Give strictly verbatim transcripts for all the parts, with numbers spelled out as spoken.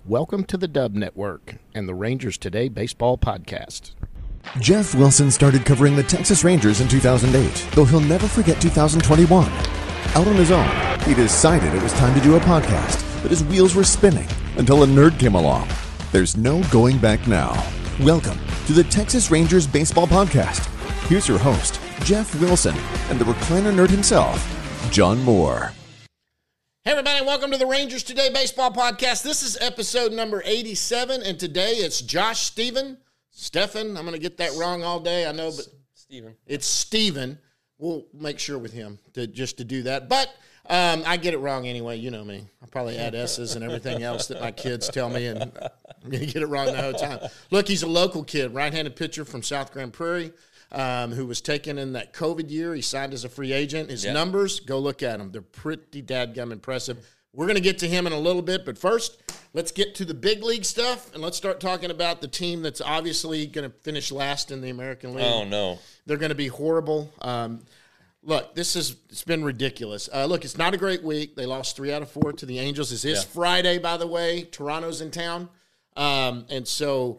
Welcome to the Dub Network and the Rangers Today Baseball Podcast. Jeff Wilson started covering the Texas Rangers in two thousand eight, though he'll never forget two thousand twenty-one. Out on his own, he decided it was time to do a podcast, but his wheels were spinning until a nerd came along. There's no going back now. Welcome to the Texas Rangers Baseball Podcast. Here's your host, Jeff Wilson, and the recliner nerd himself, John Moore. Hey everybody, welcome to the Rangers Today Baseball Podcast. This is episode number eighty-seven, and today it's Josh Steven. Stefan, I'm going to get that wrong all day, I know, but Steven. It's Steven. We'll make sure with him to just to do that. But um, I get it wrong anyway. You know me. I probably add S's and everything else that my kids tell me, and I'm going to get it wrong the whole time. Look, he's a local kid, right-handed pitcher from South Grand Prairie, um, who was taken in that COVID year. He signed as a free agent. His yep. numbers, go look at them. They're pretty dadgum impressive. We're going to get to him in a little bit, but first, let's get to the big league stuff, and let's start talking about the team that's obviously going to finish last in the American League. Oh, no. They're going to be horrible. Um, look, this is it's been ridiculous. Uh, look, it's not a great week. They lost three out of four to the Angels. This is yeah. Friday, by the way. Toronto's in town. Um, and so,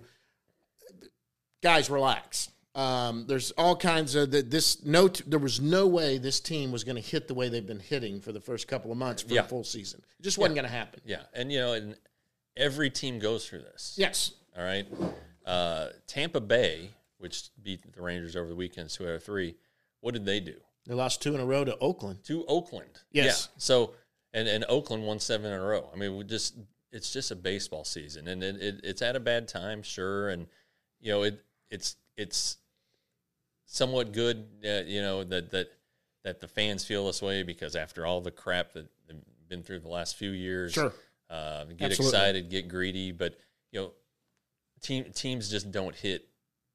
guys, relax. Um, there's all kinds of the, this. No, there was no way this team was going to hit the way they've been hitting for the first couple of months for yeah. the full season. It just wasn't yeah. going to happen. Yeah, and you know, and every team goes through this. Yes. All right. Uh, Tampa Bay, which beat the Rangers over the weekend, two out of three. What did they do? They lost two in a row to Oakland. To Oakland. Yes. Yeah. So, and and Oakland won seven in a row. I mean, we just it's just a baseball season, and it, it it's at a bad time, sure, and you know it it's it's. somewhat good, uh, you know, that that that the fans feel this way because after all the crap that they've been through the last few years, sure, uh, get Absolutely. excited, get greedy, but you know, team teams just don't hit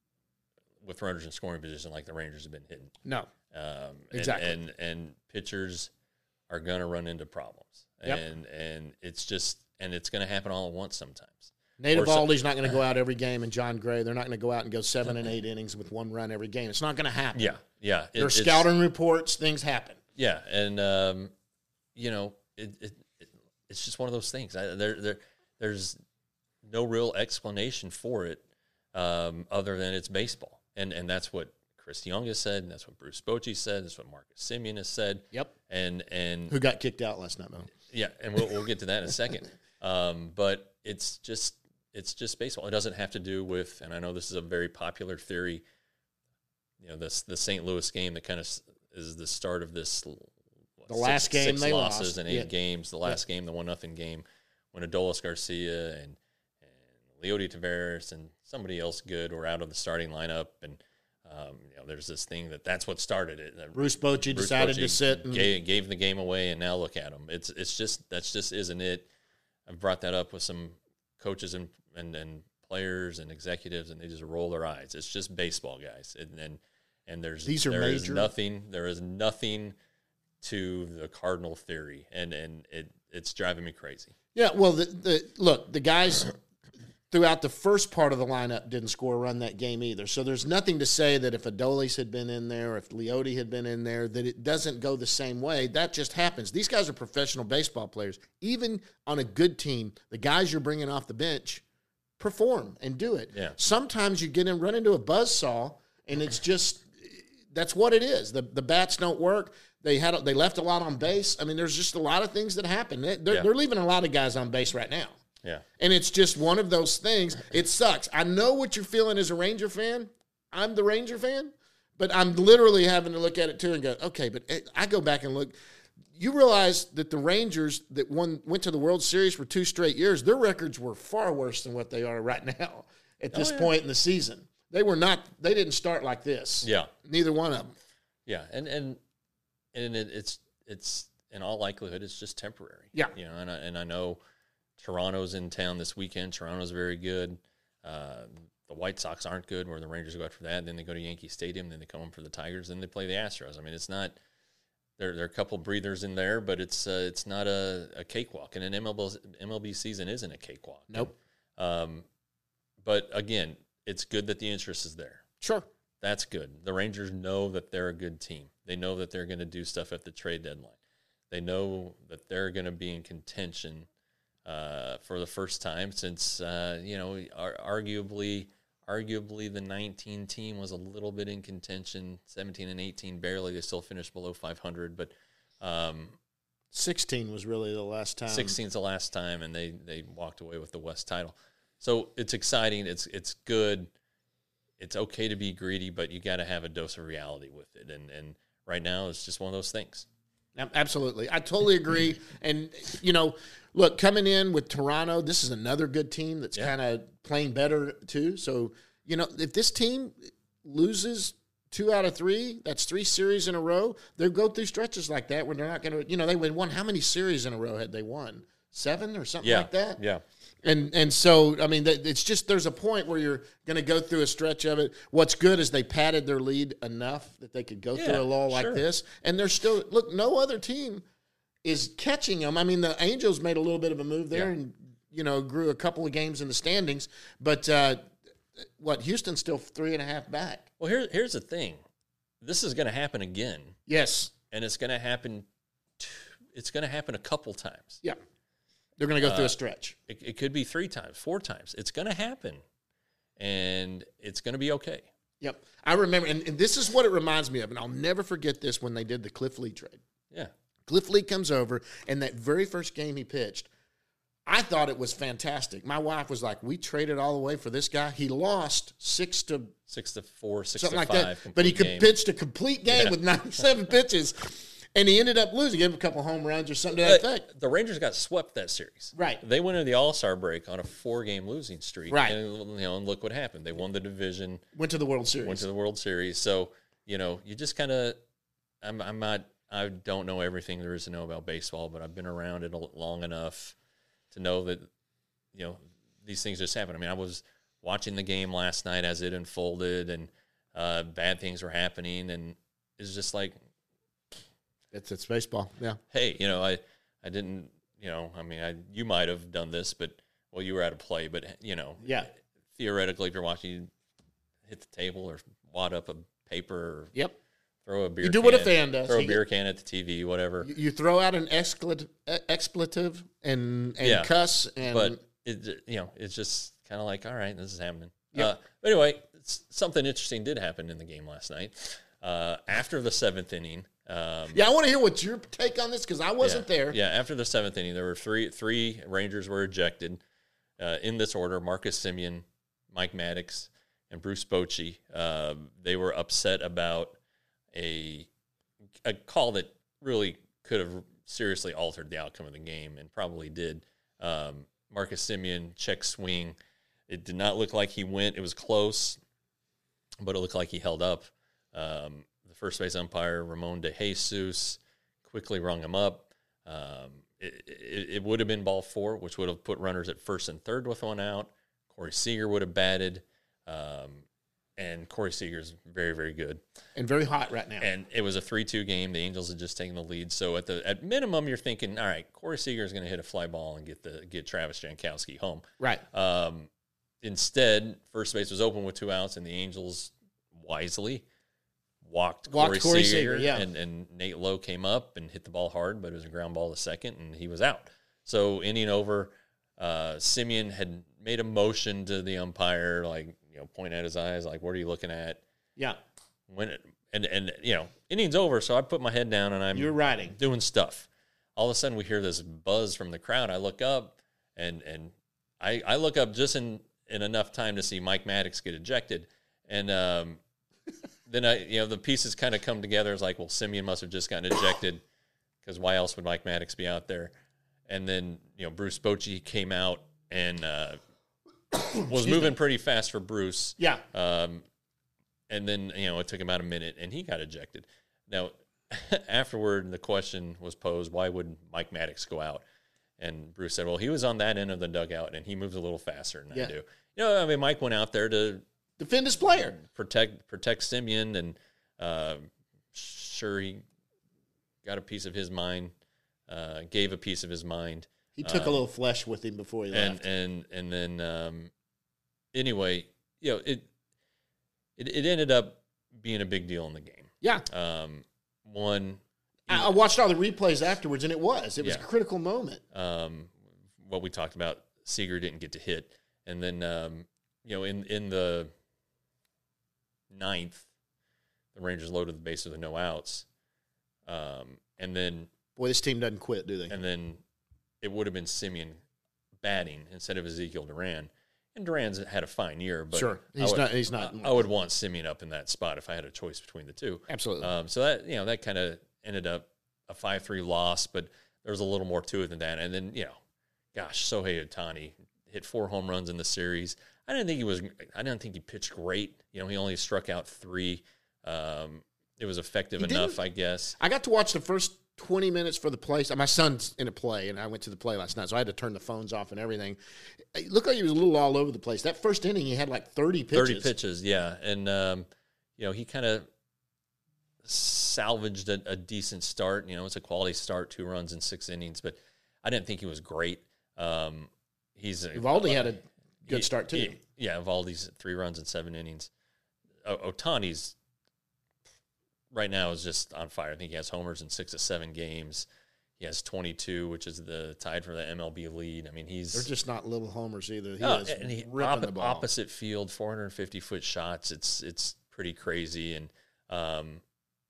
with runners in scoring position like the Rangers have been hitting. No, um, exactly, and, and and pitchers are gonna run into problems, yep. and and it's just and it's gonna happen all at once sometimes. Nate Eovaldi's not going to go out every game, and John Gray, they're not going to go out and go seven and eight innings with one run every game. It's not going to happen. Yeah, yeah. There are scouting reports. Things happen. Yeah, and, um, you know, it, it, it it's just one of those things. I, there, there, There's no real explanation for it um, other than it's baseball. And and that's what Chris Young has said, and that's what Bruce Bochy said, that's what Marcus Semien has said. Yep. And, and Who got kicked out last night, though. Yeah, and we'll, we'll get to that in a second. Um, but it's just... It's just baseball. It doesn't have to do with, and I know this is a very popular theory, you know, this the Saint Louis game that kind of is the start of this. What, the last six, game six they losses lost. and eight yeah. games. The last yeah. game, the one nothing game, when Adolis Garcia and and Leody Taveras and somebody else good were out of the starting lineup, and um, you know, there's this thing that that's what started it. Bruce Bochy Bruce decided Bochy to sit and gave, gave the game away, and now look at them. It's it's just that's just isn't it. I've brought that up with some coaches and And, and players and executives, and they just roll their eyes. It's just baseball, guys. And and, and there's These are there major. is nothing there is nothing to the Cardinal theory, and and it it's driving me crazy. Yeah, well, the, the look, the guys throughout the first part of the lineup didn't score a run that game either. So there's nothing to say that if Adolis had been in there, if Leody had been in there, that it doesn't go the same way. That just happens. These guys are professional baseball players. Even on a good team, the guys you're bringing off the bench perform and do it. Yeah. Sometimes you get in, run into a buzzsaw, and it's just that's what it is. The the bats don't work. They had they left a lot on base. I mean, there's just a lot of things that happen. They're, yeah. they're leaving a lot of guys on base right now. Yeah. And it's just one of those things. It sucks. I know what you're feeling as a Ranger fan. I'm the Ranger fan, but I'm literally having to look at it too and go, okay, but I go back and look. You realize that the Rangers that won went to the World Series for two straight years, their records were far worse than what they are right now at this oh, yeah. point in the season. They were not. They didn't start like this. Yeah. Neither one of them. Yeah, and and and it, it's it's in all likelihood it's just temporary. Yeah. You know, and I, and I know Toronto's in town this weekend. Toronto's very good. Uh, the White Sox aren't good. Where the Rangers go after that, then they go to Yankee Stadium, then they come home for the Tigers, then they play the Astros. I mean, it's not. There, there are a couple breathers in there, but it's uh, it's not a, a cakewalk, and an M L B, M L B season isn't a cakewalk. Nope. Um, but again, it's good that the interest is there. Sure. That's good. The Rangers know that they're a good team. They know that they're going to do stuff at the trade deadline. They know that they're going to be in contention uh, for the first time since, uh, you know, ar- arguably arguably the nineteen team was a little bit in contention, seventeen and eighteen barely. They still finished below five hundred, but um, sixteen was really the last time. sixteen is the last time, and they, they walked away with the West title. So it's exciting. It's it's good. It's okay to be greedy, but you got to have a dose of reality with it. And and right now, it's just one of those things. Absolutely. I totally agree. And, you know, look, coming in with Toronto, this is another good team that's yeah. kind of playing better too. So, you know, if this team loses two out of three, that's three series in a row, they'll go through stretches like that where they're not going to, you know, they won. How many series in a row had they won? Seven or something yeah. like that? Yeah. And and so, I mean, it's just there's a point where you're going to go through a stretch of it. What's good is they padded their lead enough that they could go yeah, through a lull like sure. this. And they're still, look, no other team is catching them. I mean, the Angels made a little bit of a move there yeah. and, you know, grew a couple of games in the standings. But uh, what, Houston's still three and a half back. Well, here, here's the thing. This is going to happen again. Yes. And it's going to happen, t- it's going to happen a couple times. Yeah. They're going to go through uh, a stretch. It, it could be three times, four times. It's going to happen, and it's going to be okay. Yep. I remember, and, and this is what it reminds me of, and I'll never forget this when they did the Cliff Lee trade. Yeah. Cliff Lee comes over, and that very first game he pitched, I thought it was fantastic. My wife was like, we traded all the way for this guy. He lost six to six to four, six something to like five. That. But he could game. pitched a complete game yeah. with ninety-seven pitches. And he ended up losing. Gave him a couple home runs or something to that effect. The Rangers got swept that series. Right. They went into the All-Star break on a four-game losing streak. Right. And, you know, and look what happened. They won the division. Went to the World Series. Went to the World Series. So, you know, you just kind of – I'm, I'm not – I don't know everything there is to know about baseball, but I've been around it long enough to know that, you know, these things just happen. I mean, I was watching the game last night as it unfolded, and uh, bad things were happening, and it's just like – It's it's baseball, yeah. Hey, you know, I, I didn't, you know, I mean, I you might have done this, but, well, you were out of play. But, you know, yeah. theoretically, if you're watching, you hit the table or wad up a paper or yep. throw a beer You do can, what a fan does. Throw a you beer get, can at the T V, whatever. You, you throw out an expletive, expletive and, and yeah. cuss. And But, it, you know, it's just kind of like, all right, this is happening. Yep. Uh, but anyway, something interesting did happen in the game last night. Uh, after the seventh inning, Um, yeah, I want to hear what your take on this because I wasn't yeah, there. Yeah, after the seventh inning, there were three three Rangers were ejected uh, in this order: Marcus Semien, Mike Maddox, and Bruce Bochy. Uh, they were upset about a a call that really could have seriously altered the outcome of the game, and probably did. Um, Marcus Semien check swing. It did not look like he went. It was close, but it looked like he held up. Um, the first base umpire, Ramon De Jesus, quickly rung him up. Um, it, it, it would have been ball four, which would have put runners at first and third with one out. Corey Seager would have batted. Um, and Corey Seager's very, very good. And very hot right now. And it was a three two game. The Angels had just taken the lead. So at the at minimum, you're thinking, all right, Corey Seager is going to hit a fly ball and get the get Travis Jankowski home. Right. Um, instead, first base was open with two outs, and the Angels wisely walked, walked Corey, Corey Seager, Seager yeah. and, and Nate Lowe came up and hit the ball hard, but it was a ground ball to second, and he was out. So inning over, uh, Semien had made a motion to the umpire, like, you know, point at his eyes, like, what are you looking at? Yeah. When it, and, and, you know, inning's over, so I put my head down, and I'm You're riding. doing stuff. All of a sudden, we hear this buzz from the crowd. I look up, and and I, I look up just in, in enough time to see Mike Maddox get ejected. And um, then, I, you know, the pieces kind of come together. It's like, well, Semien must have just gotten ejected because why else would Mike Maddox be out there? And then, you know, Bruce Bochy came out and uh, was moving pretty fast for Bruce. Yeah. Um, and then, you know, it took him about a minute, and he got ejected. Now, afterward, the question was posed, why would Mike Maddox go out? And Bruce said, well, he was on that end of the dugout, and he moves a little faster than yeah. I do. You know, I mean, Mike went out there to defend his player, protect protect Semien, and uh, sure, he got a piece of his mind, uh, gave a piece of his mind. He took um, a little flesh with him before he and, left. And and then um, anyway, you know, it, it it ended up being a big deal in the game. Yeah. Um, one, I, I watched all the replays afterwards, and it was it was yeah. a critical moment. Um, what we talked about, Seager didn't get to hit. And then, um, you know, in, in the ninth, the Rangers loaded the base with the no outs. Um, and then... Boy, this team doesn't quit, do they? And then it would have been Simeon batting instead of Ezekiel Duran. And Duran's had a fine year, but sure, he's would, not. He's not. I, I would want Simeon up in that spot if I had a choice between the two. Absolutely. Um, so that you know that kind of ended up a five three loss, but there was a little more to it than that. And then you know, gosh, Shohei Ohtani hit four home runs in the series. I didn't think he was. I didn't think he pitched great. You know, he only struck out three. Um, it was effective He enough, didn't- I guess. I got to watch the first twenty minutes for the play. My son's in a play, and I went to the play last night, so I had to turn the phones off and everything. It looked like he was a little all over the place. That first inning, he had like thirty pitches. Thirty pitches, yeah, and um, you know he kind of salvaged a, a decent start. You know, it's a quality start, two runs in six innings, but I didn't think he was great. Um, he's Evaldi had a good he- start too. he- yeah, Evaldi's three runs in seven innings. O- Ohtani's right now is just on fire. I think he has homers in six to seven games. He has twenty-two, which is the tied for the M L B lead. I mean, he's They're just not little homers either. He Oh, is and he, ripping oppo- the ball. opposite field, four hundred fifty foot shots. It's it's pretty crazy, and um,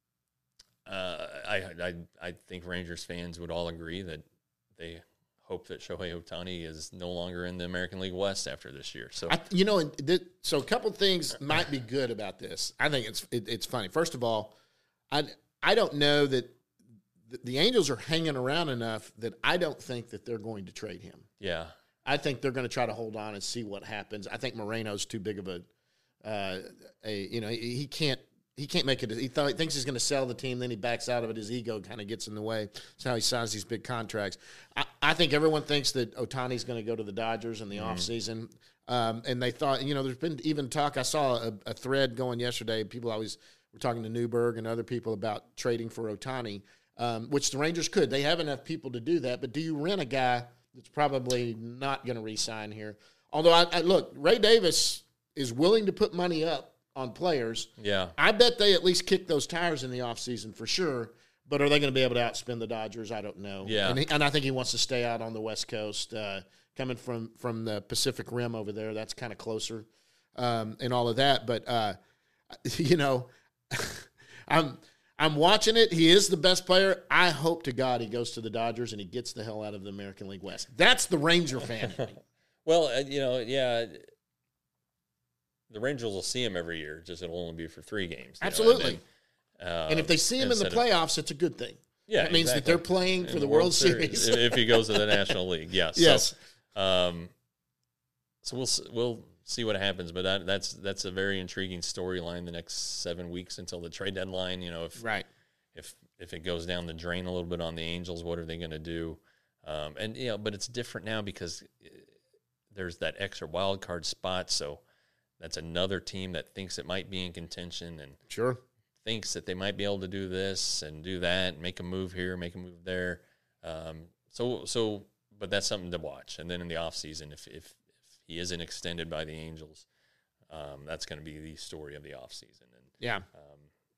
uh, I, I I think Rangers fans would all agree that they hope that Shohei Ohtani is no longer in the American League West after this year. So I, you know, and th- so a couple things might be good about this. I think it's it, it's funny. First of all, I I don't know that th- the Angels are hanging around enough that I don't think that they're going to trade him. yeah, I think they're going to try to hold on and see what happens. I think Moreno's too big of a, uh, a you know, he, he can't he can't make it. He, thought, he thinks he's going to sell the team, then he backs out of it. His ego kind of gets in the way. That's how he signs these big contracts. I, I think everyone thinks that Ohtani's going to go to the Dodgers in the Mm-hmm. offseason. Um, and they thought, you know, there's been even talk. I saw a, a thread going yesterday. People always were talking to Newberg and other people about trading for Ohtani, um, which the Rangers could. They have enough people to do that. But do you rent a guy that's probably not going to re-sign here? Although, I, I look, Ray Davis is willing to put money up on players. yeah. I bet they at least kick those tires in the offseason for sure. But are they going to be able to outspend the Dodgers? I don't know. Yeah. And, he, and I think he wants to stay out on the West Coast. Uh, coming from, from the Pacific Rim over there, that's kind of closer um, and all of that. But, uh, you know, I'm I'm watching it. He is the best player. I hope to God he goes to the Dodgers and he gets the hell out of the American League West. That's the Ranger fan. Well, uh, you know, yeah. The Rangers will see him every year. Just it'll only be for three games. you know, Absolutely. and, then, uh, And if they see him in the instead of- playoffs, it's a good thing. Yeah, that means that exactly. they're playing for in the World Series. if, if he goes to the National League. Yes. Yes. So, um, so we'll s- we'll see what happens, but that, that's that's a very intriguing storyline the next seven weeks until the trade deadline. You know, if Right. if if it goes down the drain a little bit on the Angels, what are they going to do? Um, and you know, but it's different now because uh, there's that extra wild card spot. So that's another team that thinks it might be in contention and Sure. thinks that they might be able to do this and do that, and make a move here, make a move there. Um, so, so, but that's something to watch. And then in the offseason, if, if, if he isn't extended by the Angels, um, that's going to be the story of the offseason. And Yeah. um,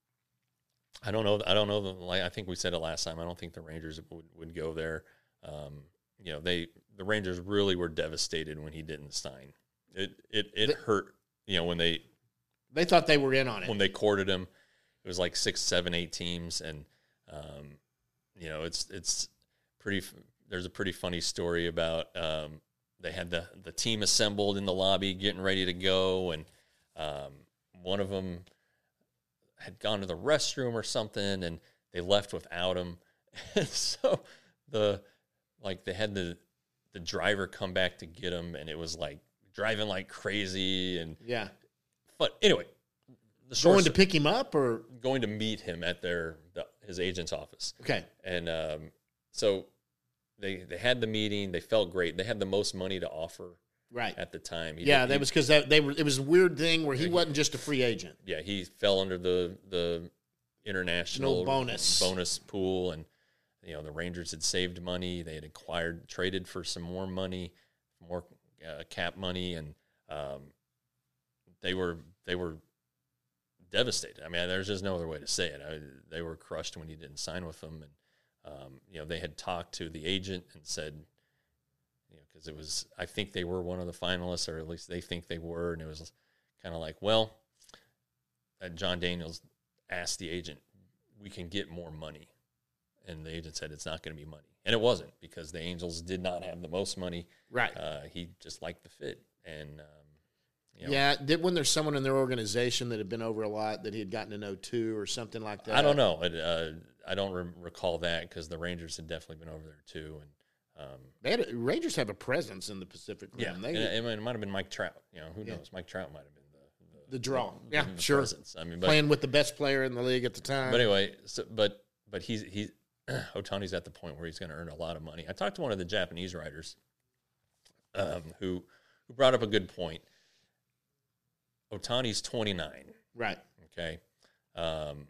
I don't know. I don't know. The, like I think we said it last time. I don't think the Rangers would, would go there. Um, you know, they the Rangers really were devastated when he didn't sign. It it it The- hurt. You know, when they They thought they were in on it. when they courted him. It was like six, seven, eight teams, and um, you know it's it's pretty. There's a pretty funny story about um, they had the the team assembled in the lobby, getting ready to go, and um, one of them had gone to the restroom or something, and they left without him. And so the like they had the the driver come back to get him, and it was like driving like crazy, and yeah. but anyway. The short Going to pick him up or going to meet him at their the, his agent's office, okay. and um, so they they had the meeting. They felt great. They had the most money to offer Right. at the time. He Yeah, did- that he- was because that they were. It was a weird thing where he wasn't just a free agent. yeah. He fell under the the international No bonus. bonus pool, and you know the Rangers had saved money. They had acquired traded for some more money, more uh, cap money, and um, they were they were. devastated. I mean, there's just no other way to say it. I, they were crushed when he didn't sign with them, and um, you know they had talked to the agent and said, because you know, it was, I think they were one of the finalists, or at least they think they were, and it was kind of like, well, uh, John Daniels asked the agent, we can get more money. And the agent said it's not going to be money. And it wasn't, because the Angels did not have the most money. Right. Uh, he just liked the fit. And, um, you know, yeah, did when there's someone in their organization that had been over a lot that he had gotten to know too or something like that? I don't know. It, uh, I don't re- recall that, because the Rangers had definitely been over there too. And um, they had a, Rangers have a presence in the Pacific Rim. yeah, They, and it, it might have been Mike Trout. You know, who Yeah. knows? Mike Trout might have been the, the, the draw. the, Yeah, the sure. presence. I mean, but, Playing with the best player in the league at the time. But anyway, so, but but he's he's Ohtani's at the point where he's going to earn a lot of money. I talked to one of the Japanese writers um, who who brought up a good point. Ohtani's twenty-nine. Right. Okay. Um,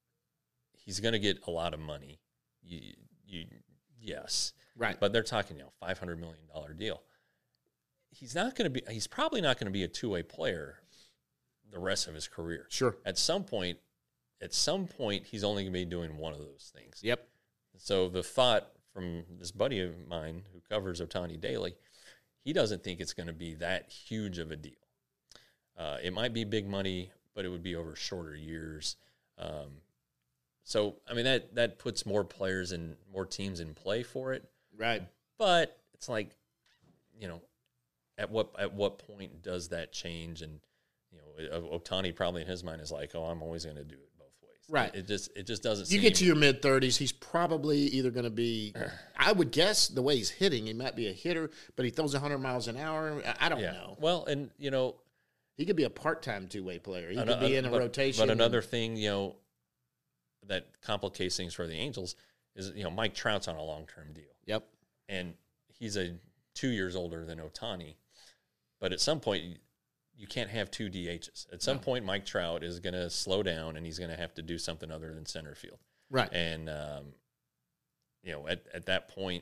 he's going to get a lot of money. You, you, yes. Right. But they're talking, you know, five hundred million dollars deal. He's not going to be, he's probably not going to be a two-way player the rest of his career. Sure. At some point, at some point, he's only going to be doing one of those things. Yep. So the thought from this buddy of mine who covers Ohtani daily, he doesn't think it's going to be that huge of a deal. Uh, it might be big money, but it would be over shorter years. Um, so, I mean, that, that puts more players and more teams in play for it. Right. But it's like, you know, at what at what point does that change? And, you know, Ohtani probably in his mind is like, oh, I'm always going to do it both ways. Right. It just it just doesn't You seem. get to your mid thirties, he's probably either going to be, I would guess the way he's hitting, he might be a hitter, but he throws one hundred miles an hour. I I don't yeah. know. Well, and, you know, He could be a part-time two-way player. He An- could be in a but, rotation. But another thing, you know, that complicates things for the Angels is, you know, Mike Trout's on a long-term deal. Yep. And he's a two years older than Ohtani. But at some point, you, you can't have two D Hs. At some No. point, Mike Trout is going to slow down, and he's going to have to do something other than center field. Right. And, um, you know, at, at that point,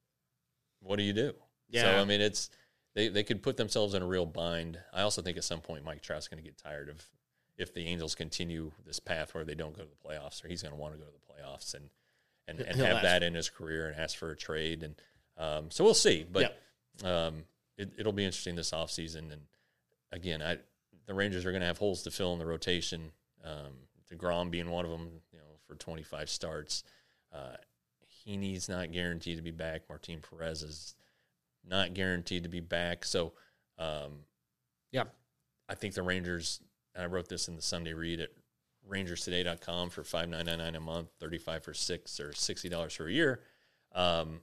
what do you do? Yeah. So, I mean, it's they, they could put themselves in a real bind. I also think at some point Mike Trout's going to get tired of if the Angels continue this path where they don't go to the playoffs, or he's going to want to go to the playoffs and and, and He'll have ask. that in his career and ask for a trade. And um, so we'll see. But um, it, it'll be interesting this offseason. And, again, I the Rangers are going to have holes to fill in the rotation, um, DeGrom being one of them, you know, for twenty-five starts. Uh, Heaney's not guaranteed to be back. Martin Perez is not guaranteed to be back. So, um, Yeah. I think the Rangers, and I wrote this in the Sunday Read at rangers today dot com for five dollars and ninety-nine cents a month, thirty-five dollars for six, or sixty dollars for a year. Um,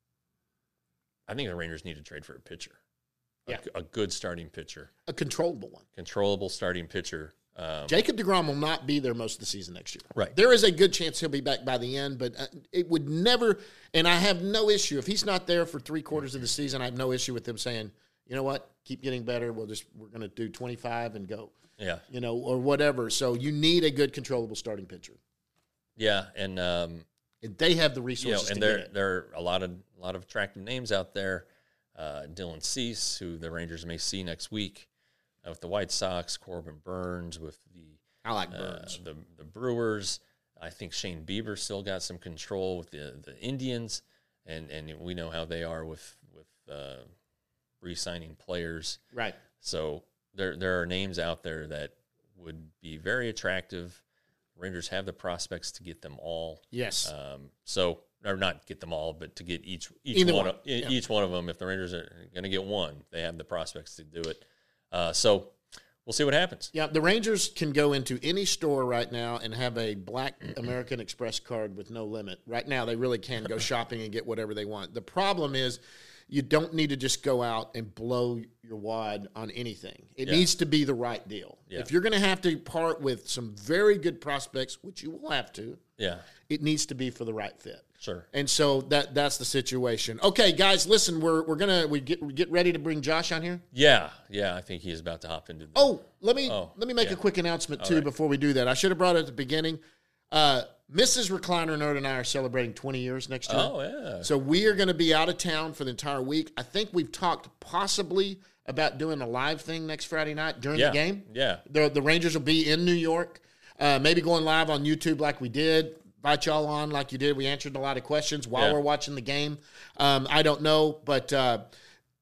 I think the Rangers need to trade for a pitcher. Yeah. A, a good starting pitcher, A controllable one. controllable starting pitcher. Um, Jacob deGrom will not be there most of the season next year. Right. There is a good chance he'll be back by the end, but uh, it would never, and I have no issue. If he's not there for three quarters of the season, I have no issue with them saying, you know what, keep getting better. We'll just, we're going to do twenty-five and go, yeah, you know, or whatever. So you need a good controllable starting pitcher. yeah, and um, And they have the you know, resources and to there get it. there are a lot of a lot of attractive names out there. Uh, Dylan Cease, who the Rangers may see next week uh, with the White Sox. Corbin Burns with the I like uh, Burns. the the Brewers. I think Shane Bieber still got some control with the the Indians, and and we know how they are with with uh, re-signing players. Right. So there there are names out there that would be very attractive. Rangers have the prospects to get them all. Yes. Um, so, or not get them all, but to get each each Either one, one, Of, e- yeah. each one of them. If the Rangers are going to get one, they have the prospects to do it. Uh, so we'll see what happens. Yeah, the Rangers can go into any store right now and have a black American Express card with no limit. Right now, they really can go shopping and get whatever they want. The problem is you don't need to just go out and blow your wad on anything. It Yeah. needs to be the right deal. Yeah. If you're going to have to part with some very good prospects, which you will have to, Yeah, it needs to be for the right fit. sure. And so that that's the situation. Okay, guys, listen, we're we're gonna we get we get ready to bring Josh on here. Yeah, yeah. I think he is about to hop into. The, Oh, let me Oh, let me make yeah. a quick announcement too right. before we do that. I should have brought it at the beginning. Uh, Missus Recliner Nerd and I are celebrating twenty years next year. oh yeah. So we are going to be out of town for the entire week. I think we've talked possibly about doing a live thing next Friday night during yeah, the game. Yeah, The, the Rangers will be in New York. Uh, maybe going live on YouTube like we did. Invite y'all on like you did. We answered a lot of questions while Yeah. we're watching the game. Um, I don't know, but uh,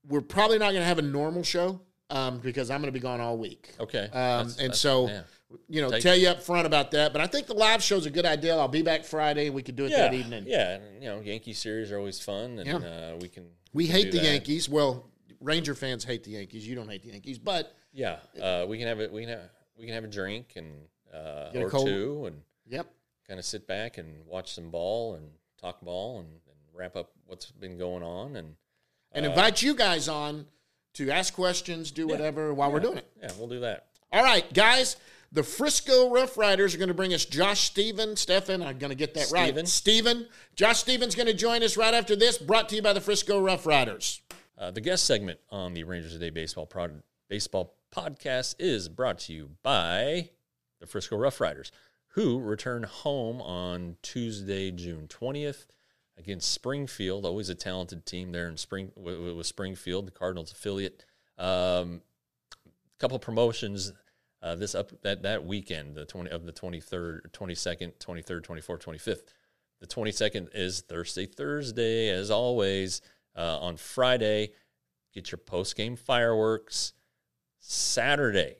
we're probably not going to have a normal show um, because I'm going to be gone all week. Okay. Um, That's- and that's- so, yeah. you know, Take- tell you up front about that. But I think the live show's a good idea. I'll be back Friday. We could do it Yeah, that evening. yeah, and you know, Yankee series are always fun, and Yeah. uh, we can. We can hate do the that. Yankees. Well, Ranger fans hate the Yankees. You don't hate the Yankees, but Yeah, uh, we can have it. We can have we can have a drink and uh, Get a or cold- two, and yep. kind of sit back and watch some ball and talk ball and, and wrap up what's been going on, and And uh, invite you guys on to ask questions, do whatever while we're doing it. Yeah, we'll do that. All right, guys. The Frisco Rough Riders are going to bring us Josh Steven. Stefan, I'm going to get that Steven. right. Steven. Josh Steven's going to join us right after this, brought to you by the Frisco Rough Riders. Uh, the guest segment on the Rangers Today Baseball Prod- Baseball Podcast is brought to you by the Frisco Rough Riders, who return home on Tuesday, June twentieth, against Springfield. Always a talented team there in Spring with, with Springfield, the Cardinals affiliate. Um, a couple promotions uh, this up that that weekend, the twenty of the twenty-third, twenty-second, twenty-third, twenty-fourth, twenty-fifth. The twenty-second is Thursday, Thursday, as always. Uh, on Friday, get your post-game fireworks. Saturday,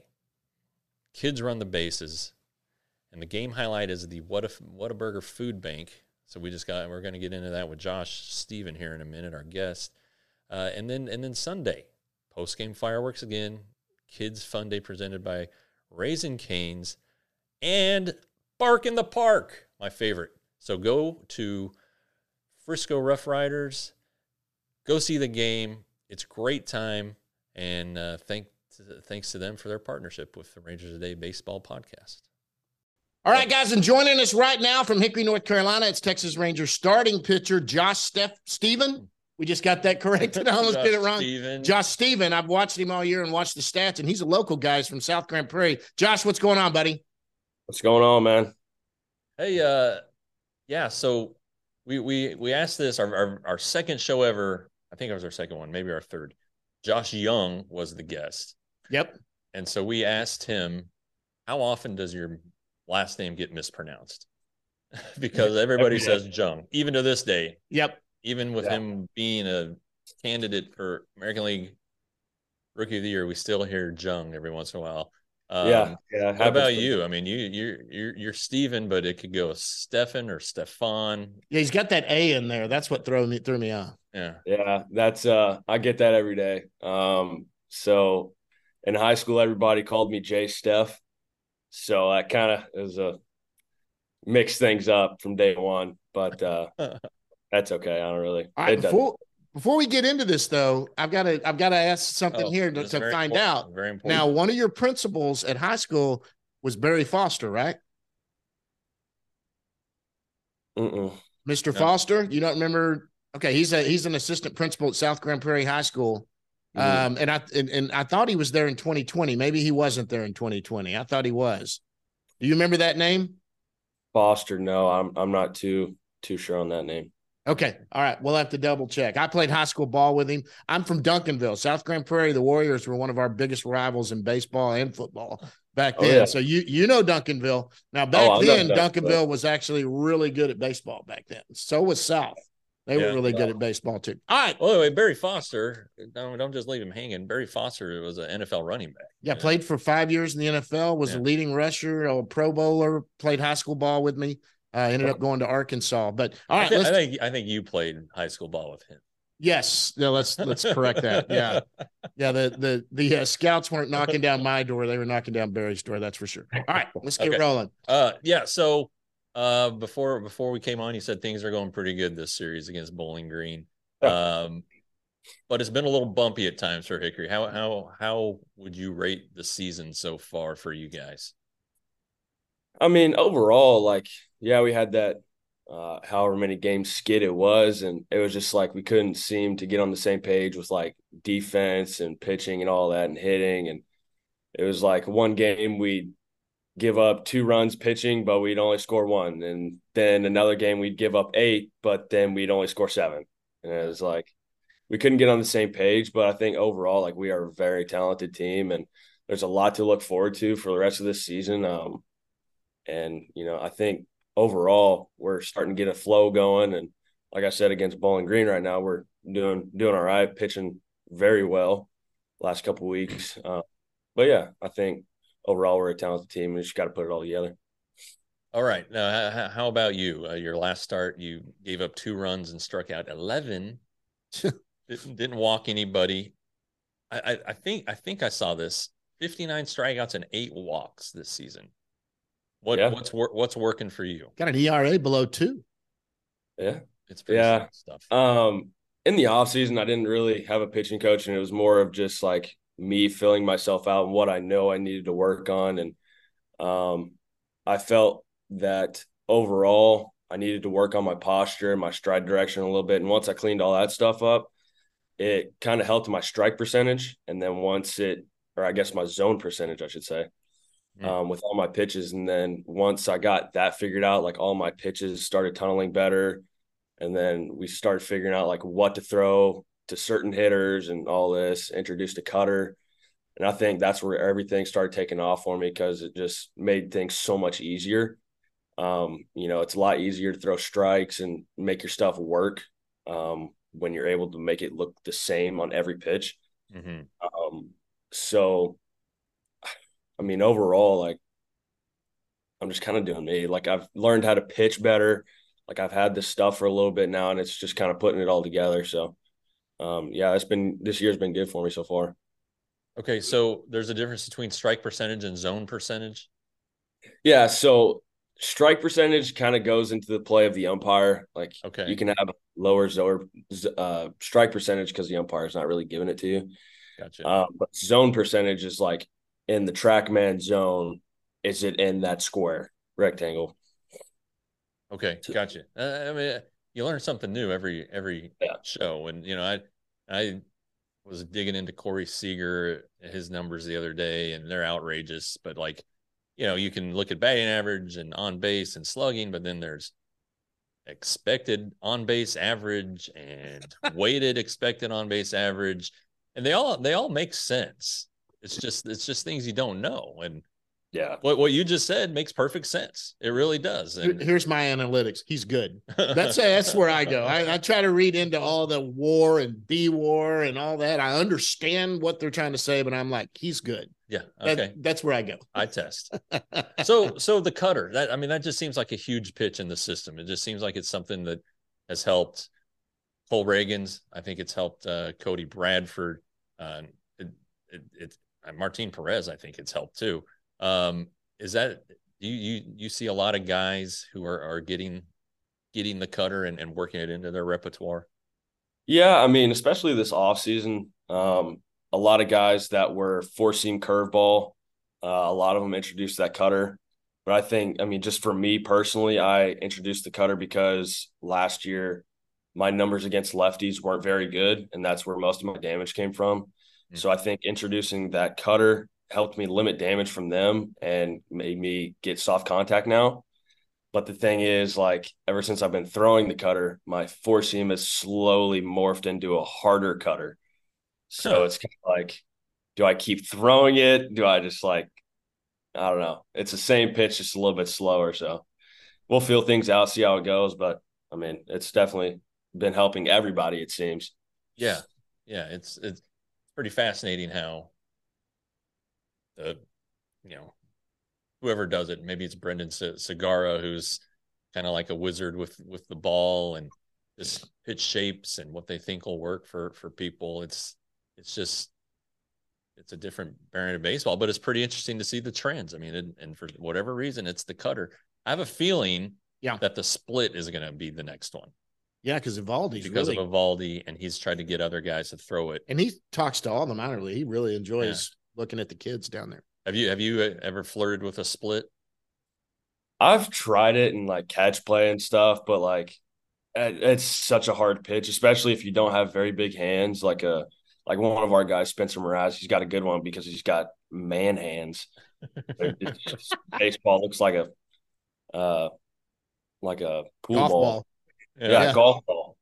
kids run the bases, and the game highlight is the What a Whataburger Food Bank. So we just got we're going to get into that with Josh Steven here in a minute, our guest, uh, and then and then Sunday, post-game fireworks again. Kids Fun Day presented by Raising Cane's and Bark in the Park, my favorite. So go to Frisco Rough Riders. Go see the game. It's a great time, and uh, thank thanks to them for their partnership with the Rangers Today Baseball Podcast. All right, guys, and joining us right now from Hickory, North Carolina, it's Texas Rangers starting pitcher Josh Steph Steven. We just got that corrected. I almost Josh did it wrong. Steven. Josh Steven. I've watched him all year and watched the stats, and he's a local guy. He's from South Grand Prairie. Josh, what's going on, buddy? What's going on, man? Hey, uh, yeah. So we we we asked this our, our our second show ever. I think it was our second one, maybe our third. Josh Young was the guest. Yep. And so we asked him, how often does your last name get mispronounced? Because everybody says Jung, even to this day. Yep. Even with Yeah. him being a candidate for American League Rookie of the Year, we still hear Jung every once in a while. Um, yeah, yeah. What about you? I mean, you you're you're you're Steven, but it could go Stefan or Stefan. Yeah, he's got that A in there. That's what threw me threw me off. Yeah. Yeah, that's uh, I get that every day. Um, so in high school, everybody called me Jay Steph, so that kind of is a mix things up from day one. But uh, that's okay. I don't really. All right, it doesn't- before before we get into this though, I've got to I've got to ask something Oh, here to, that's to very find important. out. Very important. Now, one of your principals at high school was Barry Foster, right? Mm-mm. Mister No. Foster, you don't remember? Okay, he's a he's an assistant principal at South Grand Prairie High School. Mhm. Um, and I and, and I thought he was there in twenty twenty. Maybe he wasn't there in twenty twenty. I thought he was. Do you remember that name? Foster, no, I'm I'm not too too sure on that name. Okay. All right. We'll have to double check. I played high school ball with him. I'm from Duncanville, South Grand Prairie. The Warriors were one of our biggest rivals in baseball and football back Oh, then. yeah. So you you know Duncanville. Now back I know then, Duncanville. Duncanville was actually really good at baseball back then. So was South. They Yeah. were really good at baseball too. All right. Well, anyway, Barry Foster, don't, don't just leave him hanging. Barry Foster was an N F L running back. Yeah, played for five years in the N F L, was Yeah. a leading rusher, a Pro Bowler, played high school ball with me. Uh, ended up going to Arkansas. But all I, right, thi- let's I think I think you played high school ball with him. yes, no, let's let's correct that. Yeah, yeah. The the the uh, scouts weren't knocking down my door; they were knocking down Barry's door. That's for sure. All right, let's get Okay. rolling. Uh, yeah. So, uh, before before we came on, you said things are going pretty good this series against Bowling Green. Um, but it's been a little bumpy at times for Hickory. How how how would you rate the season so far for you guys? I mean, overall, like, yeah, we had that uh, however many games skid it was, and it was just like we couldn't seem to get on the same page with like defense and pitching and all that and hitting. And it was like one game we'd give up two runs pitching, but we'd only score one. And then another game we'd give up eight, but then we'd only score seven. And it was like we couldn't get on the same page. But I think overall, like, we are a very talented team, and there's a lot to look forward to for the rest of this season. Um, and, you know, I think overall we're starting to get a flow going. And like I said, against Bowling Green right now, we're doing doing all right, pitching very well last couple of weeks. Uh, but yeah, I think overall we're a talented team. We just got to put it all together. All right. Now, how about you? Uh, your last start, you gave up two runs and struck out eleven. didn't, didn't walk anybody. I, I, I think I think I saw this. fifty-nine strikeouts and eight walks this season. What yeah. what's what's working for you? Got an E R A below two. Yeah, it's pretty yeah stuff. Um, in the off season, I didn't really have a pitching coach, and it was more of just like me filling myself out and what I know I needed to work on. And um, I felt that overall I needed to work on my posture, my stride direction a little bit. And once I cleaned all that stuff up, it kind of helped my strike percentage. And then once it, or I guess my zone percentage, I should say, mm. um, with all my pitches. And then once I got that figured out, like all my pitches started tunneling better. And then we started figuring out like what to throw to certain hitters and all this, introduced a cutter. And I think that's where everything started taking off for me because it just made things so much easier. Um, you know, it's a lot easier to throw strikes and make your stuff work um, when you're able to make it look the same on every pitch. Mm-hmm. Um, so, I mean, overall, like, I'm just kind of doing me. Like, I've learned how to pitch better. Like, I've had this stuff for a little bit now, and it's just kind of putting it all together. So, um, yeah, it's been this year's been good for me so far. Okay, so there's a difference between strike percentage and zone percentage? Yeah, so strike percentage kind of goes into the play of the umpire. Like, okay, you can have lower zone, uh, strike percentage because the umpire is not really giving it to you. Gotcha. Um, but zone percentage is like in the TrackMan zone, is it in that square rectangle? Okay, gotcha. Uh, I mean, you learn something new every every yeah. show, and you know, I I was digging into Corey Seager, his numbers the other day, and they're outrageous. But like, you know, you can look at batting average and on base and slugging, but then there's expected on base average and weighted expected on base average, and they all they all make sense. It's just it's just things you don't know, and yeah, what what you just said makes perfect sense. It really does. And here's my analytics. He's good. That's that's where I go. I, I try to read into all the war and B war and all that. I understand what they're trying to say, but I'm like, he's good. Yeah. Okay. That, that's where I go. I test. so so the cutter. That I mean, that just seems like a huge pitch in the system. It just seems like it's something that has helped Cole Reagans. I think it's helped uh, Cody Bradford. Uh, it, it, it, uh, Martin Perez. I think it's helped too. Um, is that you, you, you see a lot of guys who are, are getting, getting the cutter and, and working it into their repertoire? Yeah. I mean, especially this off season, um, a lot of guys that were four seam curveball, uh, a lot of them introduced that cutter, but I think, I mean, just for me personally, I introduced the cutter because last year my numbers against lefties weren't very good. And that's where most of my damage came from. Mm-hmm. So I think introducing that cutter helped me limit damage from them and made me get soft contact now. But the thing is, like, ever since I've been throwing the cutter, my four seam has slowly morphed into a harder cutter. So huh. It's kind of like, do I keep throwing it? Do I just like, I don't know. It's the same pitch, just a little bit slower. So we'll feel things out, see how it goes. But I mean, it's definitely been helping everybody, it seems. Yeah. Yeah. It's, it's pretty fascinating how, the, you know, whoever does it, maybe it's Brendan Segura, who's kind of like a wizard with, with the ball and just pitch shapes and what they think will work for, for people. It's, it's just, it's a different variant of baseball, but it's pretty interesting to see the trends. I mean, and, and for whatever reason, it's the cutter. I have a feeling yeah. that the split is going to be the next one. Yeah, because Evaldi's because really... of Evaldi, and he's tried to get other guys to throw it. And he talks to all the minor league. He really enjoys yeah. looking at the kids down there. Have you have you ever flirted with a split? I've tried it in like catch play and stuff, but like it's such a hard pitch, especially if you don't have very big hands. Like a like one of our guys, Spencer Mraz, he's got a good one because he's got man hands. Just, baseball looks like a uh like a pool golf ball. ball. Yeah, yeah. golf ball.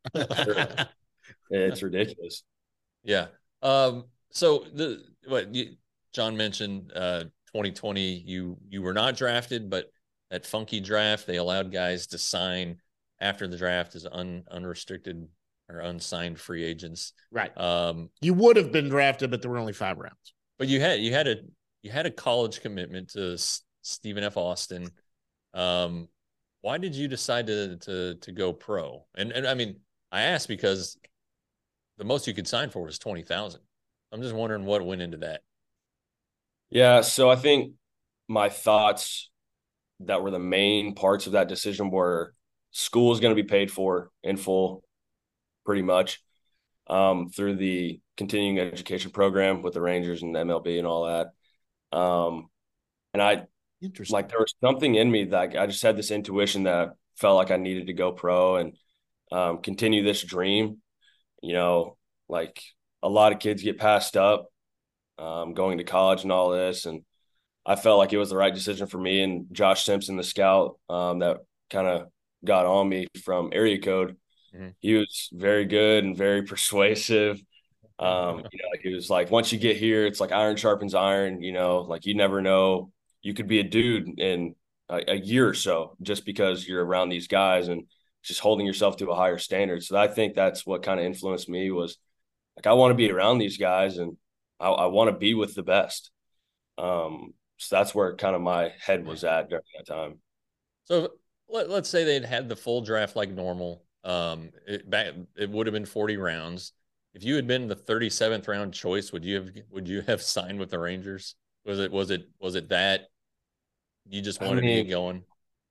It's ridiculous. Yeah. Um. So the what you. John mentioned uh, twenty twenty, you you were not drafted, but that funky draft, they allowed guys to sign after the draft as un, unrestricted or unsigned free agents. Right. Um, you would have been drafted, but there were only five rounds. But you had you had a you had a college commitment to S- Stephen F. Austin. Um, why did you decide to to to go pro? And and I mean, I asked because the most you could sign for was twenty thousand. I'm just wondering what went into that. Yeah, so I think my thoughts that were the main parts of that decision were school is going to be paid for in full, pretty much, um, through the continuing education program with the Rangers and the M L B and all that. Um, and I, Interesting. like, there was something in me that I just had this intuition that felt like I needed to go pro and um, continue this dream. You know, like a lot of kids get passed up um, going to college and all this. And I felt like it was the right decision for me. And Josh Simpson, the scout um, that kind of got on me from Area Code, mm-hmm. he was very good and very persuasive. Um, you know, like he was like, once you get here, it's like iron sharpens iron, you know, like you never know, you could be a dude in a, a year or so just because you're around these guys and just holding yourself to a higher standard. So I think that's what kind of influenced me was like, I want to be around these guys and I, I want to be with the best. Um, so that's where kind of my head was at during that time. So let, let's say they'd had the full draft like normal. Um, it, back, it would have been forty rounds. If you had been the thirty-seventh round choice, would you have would you have signed with the Rangers? Was it was it was it that you just wanted I mean, to get going?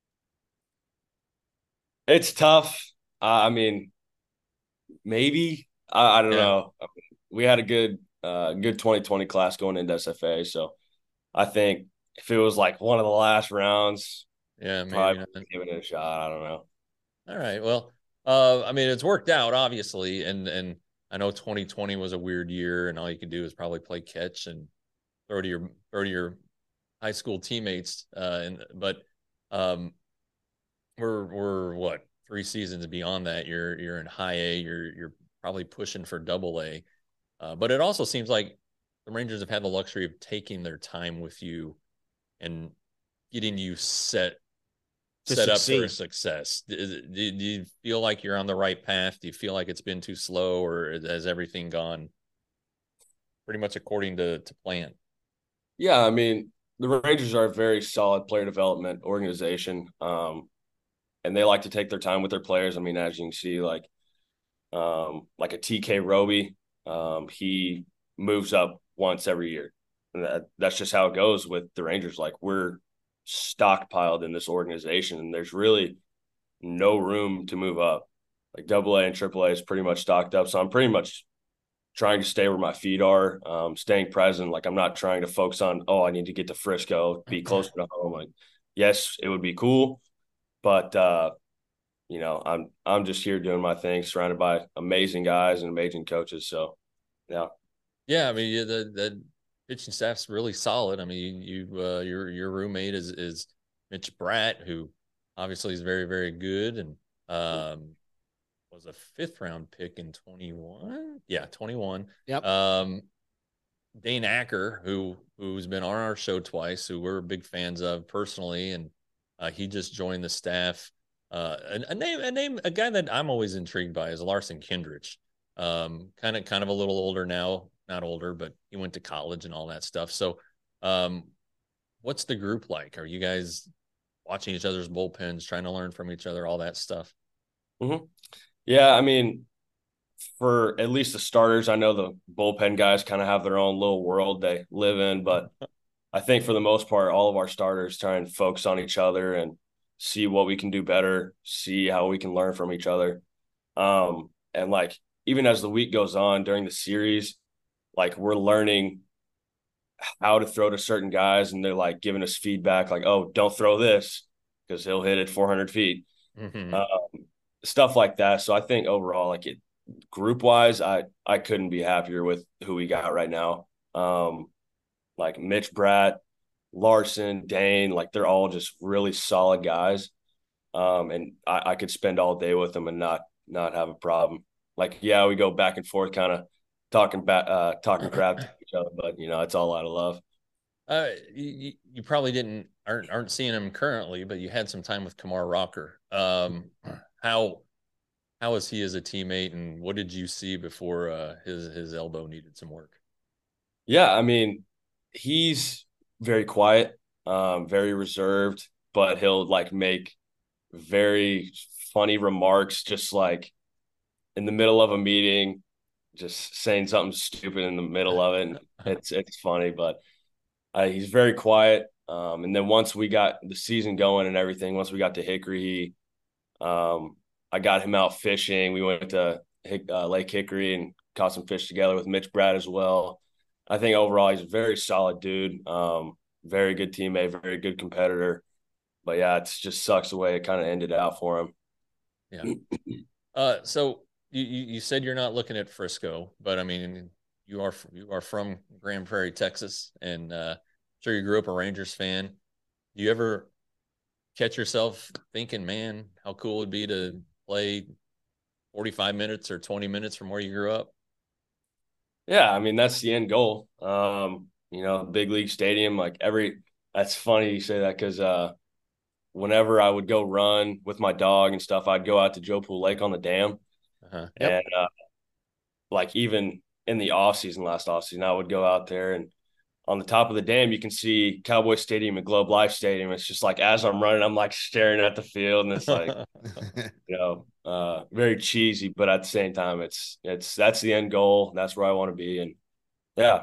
It's tough. Uh, I mean, maybe I, I don't yeah. know. We had a good uh, good twenty twenty class going into S F A, so I think if it was like one of the last rounds, yeah, maybe probably not. Give it a shot. I don't know. All right. Well, uh, I mean, it's worked out obviously, and and. I know twenty twenty was a weird year, and all you could do is probably play catch and throw to your throw to your high school teammates. Uh, and but um, we're we're what three seasons beyond that. You're you're in high A. You're you're probably pushing for double A. Uh, but it also seems like the Rangers have had the luxury of taking their time with you and getting you set to set succeed. up for success. Do, do, do you feel like you're on the right path? Do you feel like it's been too slow, or has everything gone pretty much according to, to plan? Yeah, I mean, the Rangers are a very solid player development organization, um, and they like to take their time with their players. I mean, as you can see, like um, like a T K Roby, um, he moves up once every year, and that, that's just how it goes with the Rangers. Like we're stockpiled in this organization, and there's really no room to move up. Like double A and triple A is pretty much stocked up. So I'm pretty much trying to stay where my feet are, um, staying present. Like I'm not trying to focus on, oh, I need to get to Frisco, be closer to home. Like, yes, it would be cool, but uh, you know, I'm I'm just here doing my thing, surrounded by amazing guys and amazing coaches. So, yeah, yeah. I mean, yeah, the the pitching staff's really solid. I mean, you uh, your your roommate is is Mitch Bratt, who obviously is very very good, and um, was a fifth round pick in twenty-one. Yeah, twenty-one. Yep. Um, Dane Acker, who who's been on our show twice, who we're big fans of personally, and uh, he just joined the staff. Uh, a, a name, a name, a guy that I'm always intrigued by is Larson Kindrich. Um, kind of, kind of a little older now. Not older, but he went to college and all that stuff. So, um, what's the group like? Are you guys watching each other's bullpens, trying to learn from each other, all that stuff? Mm-hmm. Yeah, I mean, for at least the starters, I know the bullpen guys kind of have their own little world they live in, but I think for the most part, all of our starters try and focus on each other and see what we can do better, see how we can learn from each other. Um, and like, even as the week goes on during the series, like we're learning how to throw to certain guys, and they're like giving us feedback, like, "Oh, don't throw this because he'll hit it four hundred feet," mm-hmm. um, stuff like that. So I think overall, like it, group wise, I I couldn't be happier with who we got right now. Um, like Mitch Bratt, Larson, Dane, like they're all just really solid guys, um, and I, I could spend all day with them and not not have a problem. Like, yeah, we go back and forth, kind of talking back, uh, talking crap to each other, but you know, it's all out of love. Uh, you, you probably didn't aren't aren't seeing him currently, but you had some time with Kumar Rocker. Um, how how is he as a teammate, and what did you see before uh, his his elbow needed some work? Yeah, I mean, he's very quiet, um, very reserved, but he'll like make very funny remarks, just like in the middle of a meeting, just saying something stupid in the middle of it. And it's it's funny, but uh, he's very quiet. Um, and then once we got the season going and everything, once we got to Hickory, he, um, I got him out fishing. We went to Hick, uh, Lake Hickory and caught some fish together with Mitch Brad as well. I think overall he's a very solid dude, um, very good teammate, very good competitor. But yeah, it just sucks the way it kind of ended out for him. Yeah. Uh, so you, you said you're not looking at Frisco, but I mean, you are you are from Grand Prairie, Texas, and uh, I'm sure you grew up a Rangers fan. Do you ever catch yourself thinking, man, how cool it would be to play forty-five minutes or twenty minutes from where you grew up? Yeah, I mean that's the end goal. Um, you know, big league stadium, like every. That's funny you say that because uh, whenever I would go run with my dog and stuff, I'd go out to Joe Pool Lake on the dam, Uh-huh. Yep. and uh, like even in the off season, last off season, I would go out there and on the top of the dam, you can see Cowboy Stadium and Globe Life Stadium. It's just like as I'm running, I'm like staring at the field, and it's like you know, uh, very cheesy, but at the same time, it's it's that's the end goal. That's where I want to be, and yeah.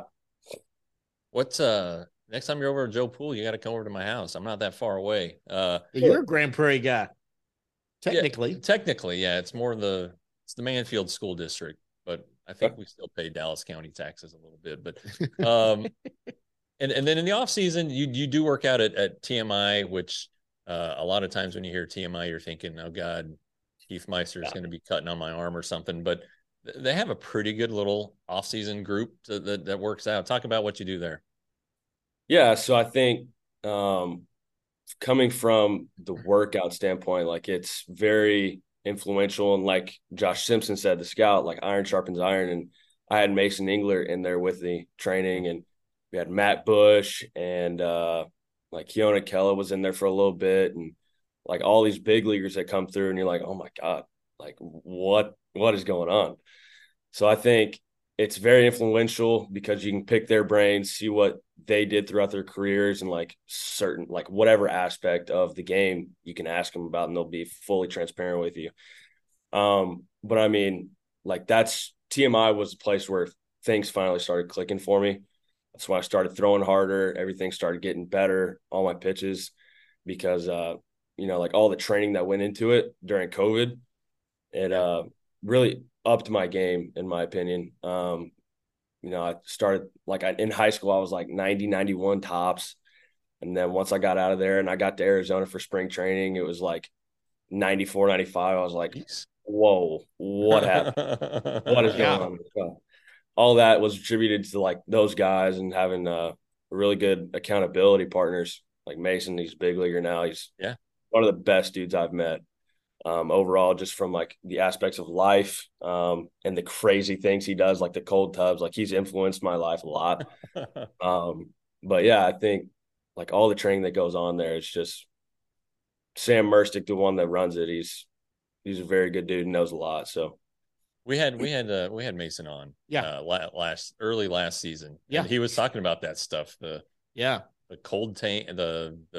What's uh next time you're over at Joe Pool, you got to come over to my house. I'm not that far away. Uh, You're a Grand Prairie guy, technically. yeah, technically, yeah, it's more the it's the Manfield School District, but I think we still pay Dallas County taxes a little bit. But um, and and then in the off season, you you do work out at, at T M I, which uh, a lot of times when you hear T M I, you're thinking, oh God, Keith Meister is going to be cutting on my arm or something. But they have a pretty good little off season group to, that that works out. Talk about what you do there. Yeah, so I think um, coming from the workout standpoint, like it's very influential. And like Josh Simpson said, the scout, like iron sharpens iron. And I had Mason Engler in there with the training, and we had Matt Bush and uh, like Keona Kella was in there for a little bit, and like all these big leaguers that come through, and you're like, oh my God, like what what is going on? So I think it's very influential because you can pick their brains, see what they did throughout their careers, and like certain, like whatever aspect of the game you can ask them about, and they'll be fully transparent with you. Um, but I mean, like that's T M I was the place where things finally started clicking for me. That's when I started throwing harder. Everything started getting better, all my pitches, because, uh, you know, like all the training that went into it during COVID, it uh, really upped my game, in my opinion. Um, you know, I started like I, in high school, I was like ninety, ninety-one tops. And then once I got out of there and I got to Arizona for spring training, it was like ninety-four, ninety-five. I was like, whoa, what happened? What is going Yeah. on? So all that was attributed to like those guys and having uh, really good accountability partners like Mason. He's a big leaguer now. He's Yeah. one of the best dudes I've met. Um, overall, just from like the aspects of life um, and the crazy things he does, like the cold tubs, like he's influenced my life a lot. Um, but yeah, I think like all the training that goes on there, it's just Sam Merstick, the one that runs it. He's he's a very good dude and knows a lot. So We had we had uh, we had Mason on, Yeah. uh, last early last season. Yeah. And he was talking about that stuff, the Yeah. the cold tank, the the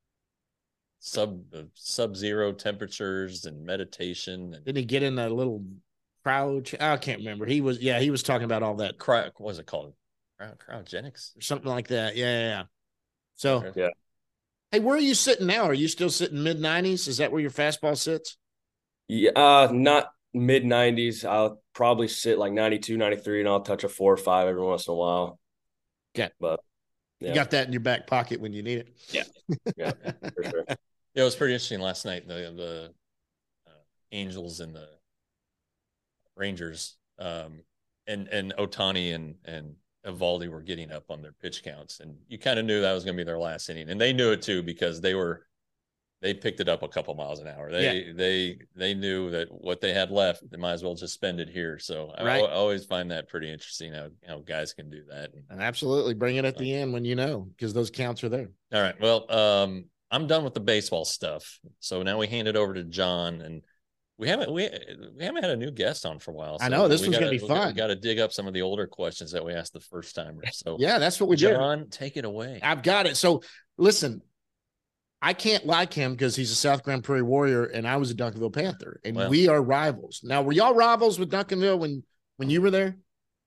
sub the sub zero temperatures and meditation and Didn't he get in a little crouch? I can't remember. He was, yeah, he was talking about all that, cry. What was it called? Cryo, cryogenics. or something like that. Yeah. Yeah. yeah. So, yeah, hey, where are you sitting now? Are you still sitting mid nineties? Is that where your fastball sits? yeah, uh, not mid nineties. I'll probably sit like ninety-two, ninety-three, and I'll touch a four or five every once in a while. Okay. But yeah. You got that in your back pocket when you need it. Yeah. Yeah, for sure. Yeah, it was pretty interesting last night. The the uh, Angels and the Rangers, um, and and Otani and and Evaldi were getting up on their pitch counts, and you kind of knew that was going to be their last inning, and they knew it too because they were they picked it up a couple miles an hour. They yeah. they they knew that what they had left, they might as well just spend it here. So right. I, I always find that pretty interesting how how guys can do that. And, and absolutely bring it at the end when you know, because those counts are there. All right. Well, um, I'm done with the baseball stuff. So now we hand it over to John, and We haven't we, we haven't had a new guest on for a while. So I know this we one's gotta, gonna be we fun. We got to dig up some of the older questions that we asked the first timers. So yeah, that's what we did. John, take it away. I've got it. So listen, I can't like him because he's a South Grand Prairie Warrior and I was a Duncanville Panther, and Well, we are rivals. Now, were y'all rivals with Duncanville when when you were there?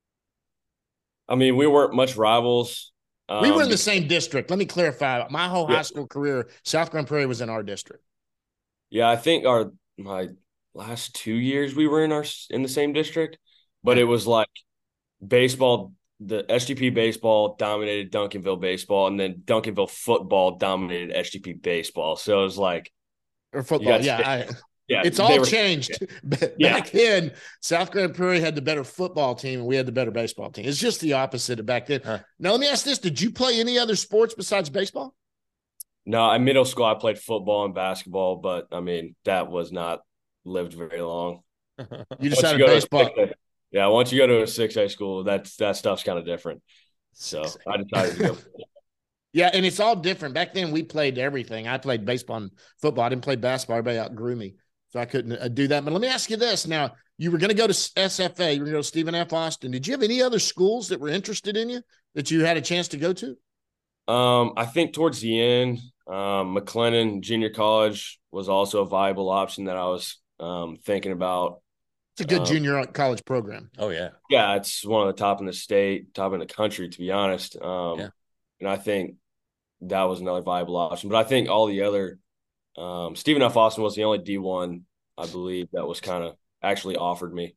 I mean, we weren't much rivals. Um, We were in the same district. Let me clarify. My whole Yeah. high school career, South Grand Prairie was in our district. Yeah, I think our my last two years we were in our in the same district, but it was like baseball. The S G P baseball dominated Duncanville baseball, and then Duncanville football dominated S G P baseball. So it was like Or football. You Yeah. got- I, yeah, it's they all were- changed. Back Yeah. then, South Grand Prairie had the better football team and we had the better baseball team. It's just the opposite of back then. Huh. Now, let me ask this. Did you play any other sports besides baseball? No, in middle school I played football and basketball, but I mean that was not lived very long. You Once decided go to a baseball. six A yeah, once you go to a six A school, that's that stuff's kind of different. So I decided to go. Yeah, and it's all different. Back then, we played everything. I played baseball and football. I didn't play basketball. Everybody outgrew me, so I couldn't uh, do that. But let me ask you this. Now, you were going to go to S F A. You were going to go to Stephen F. Austin. Did you have any other schools that were interested in you that you had a chance to go to? Um, I think towards the end, um, McLennan Junior College was also a viable option that I was um, thinking about. It's a good Um, junior college program. Oh yeah. Yeah, it's one of the top in the state, top in the country, to be honest. Um, Yeah. And I think that was another viable option. But I think all the other um, Stephen F. Austin was the only D one, I believe, that was kind of actually offered me.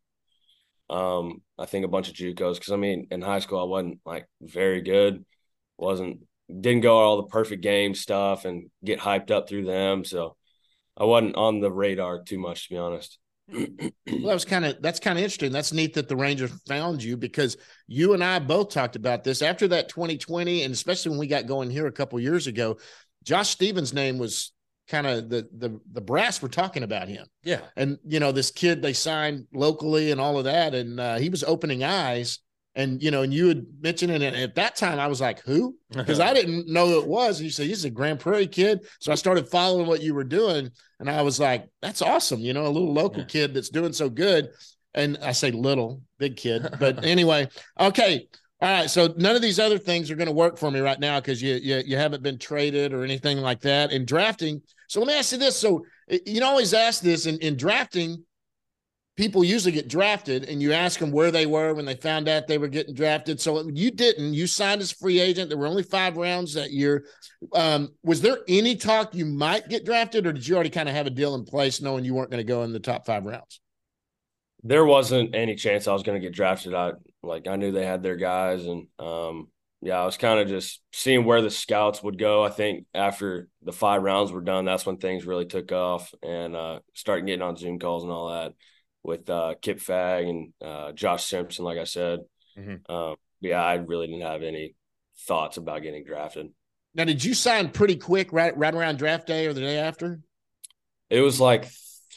Um, I think a bunch of JUCOs, because I mean, in high school I wasn't like very good, wasn't didn't go all the perfect game stuff and get hyped up through them, so I wasn't on the radar too much, to be honest. Well, that was kind of that's kind of interesting. That's neat that the Rangers found you, because you and I both talked about this after that twenty twenty, and especially when we got going here a couple years ago. Josh Stevens' name was kind of the the the brass were talking about him. Yeah. And you know, this kid they signed locally and all of that, and uh, he was opening eyes. And you know, and you had mentioned it, and at that time I was like, who? Because I didn't know who it was. And you said he's a Grand Prairie kid, so I started following what you were doing, and I was like, that's awesome. You know, a little local Yeah. kid that's doing so good. And I say little, big kid, but anyway, okay. All right, so none of these other things are going to work for me right now because you, you you haven't been traded or anything like that in drafting. So let me ask you this: so you know, always ask this in, in drafting. People usually get drafted, and you ask them where they were when they found out they were getting drafted. So you didn't. You signed as a free agent. There were only five rounds that year. Um, was there any talk you might get drafted, or did you already kind of have a deal in place, knowing you weren't going to go in the top five rounds? There wasn't any chance I was going to get drafted. I like I knew they had their guys, and um, yeah, I was kind of just seeing where the scouts would go. I think after the five rounds were done, that's when things really took off, and uh, starting getting on Zoom calls and all that with uh, Kip Fagg and uh, Josh Simpson. Like I said, Mhm. um, yeah, I really didn't have any thoughts about getting drafted. Now, did you sign pretty quick, right, right around draft day or the day after? It was like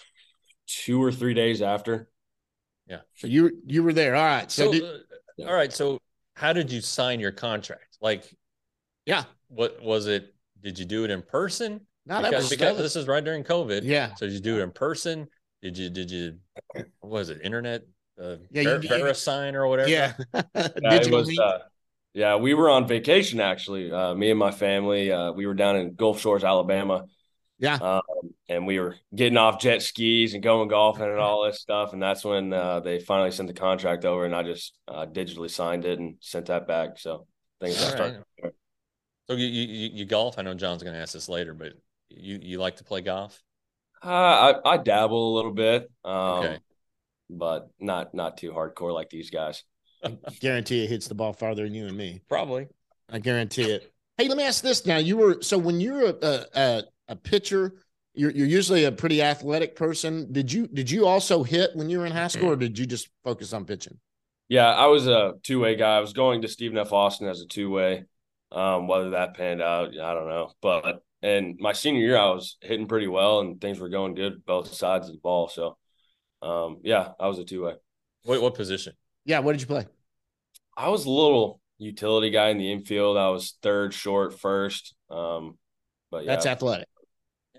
two or three days after. Yeah. So you you were there. All right. So, So, did, uh, all right. So, how did you sign your contract? Like, yeah, what was it? Did you do it in person? no, that because was, because that was this is right during COVID. yeah. So, did you do it in person? Did you did you what was it? Internet uh, Yeah, Ver- you- VeriSign or whatever? Yeah. Yeah, it Digital was, meet. uh, yeah, we were on vacation actually. Uh, me and my family. Uh, we were down in Gulf Shores, Alabama. Yeah. Um, and we were getting off jet skis and going golfing and all this stuff. And that's when uh, they finally sent the contract over, and I just uh, digitally signed it and sent that back. So things All started. right. So you, you you golf? I know John's going to ask this later, but you you like to play golf? Uh, I I dabble a little bit, um, Okay. but not not too hardcore like these guys. Guarantee it hits the ball farther than you and me. Probably. I guarantee it. Hey, let me ask this now. You were so when you're a a, a, a pitcher, you're you're usually a pretty athletic person. Did you did you also hit when you were in high school, or did you just focus on pitching? Yeah, I was a two way guy. I was going to Stephen F. Austin as a two way. Um, whether that panned out, I don't know. But and my senior year, I was hitting pretty well, and things were going good both sides of the ball. So, um, yeah, I was a two way. What what position? Yeah. What did you play? I was a little utility guy in the infield. I was third, short, first. Um, but yeah, That's athletic.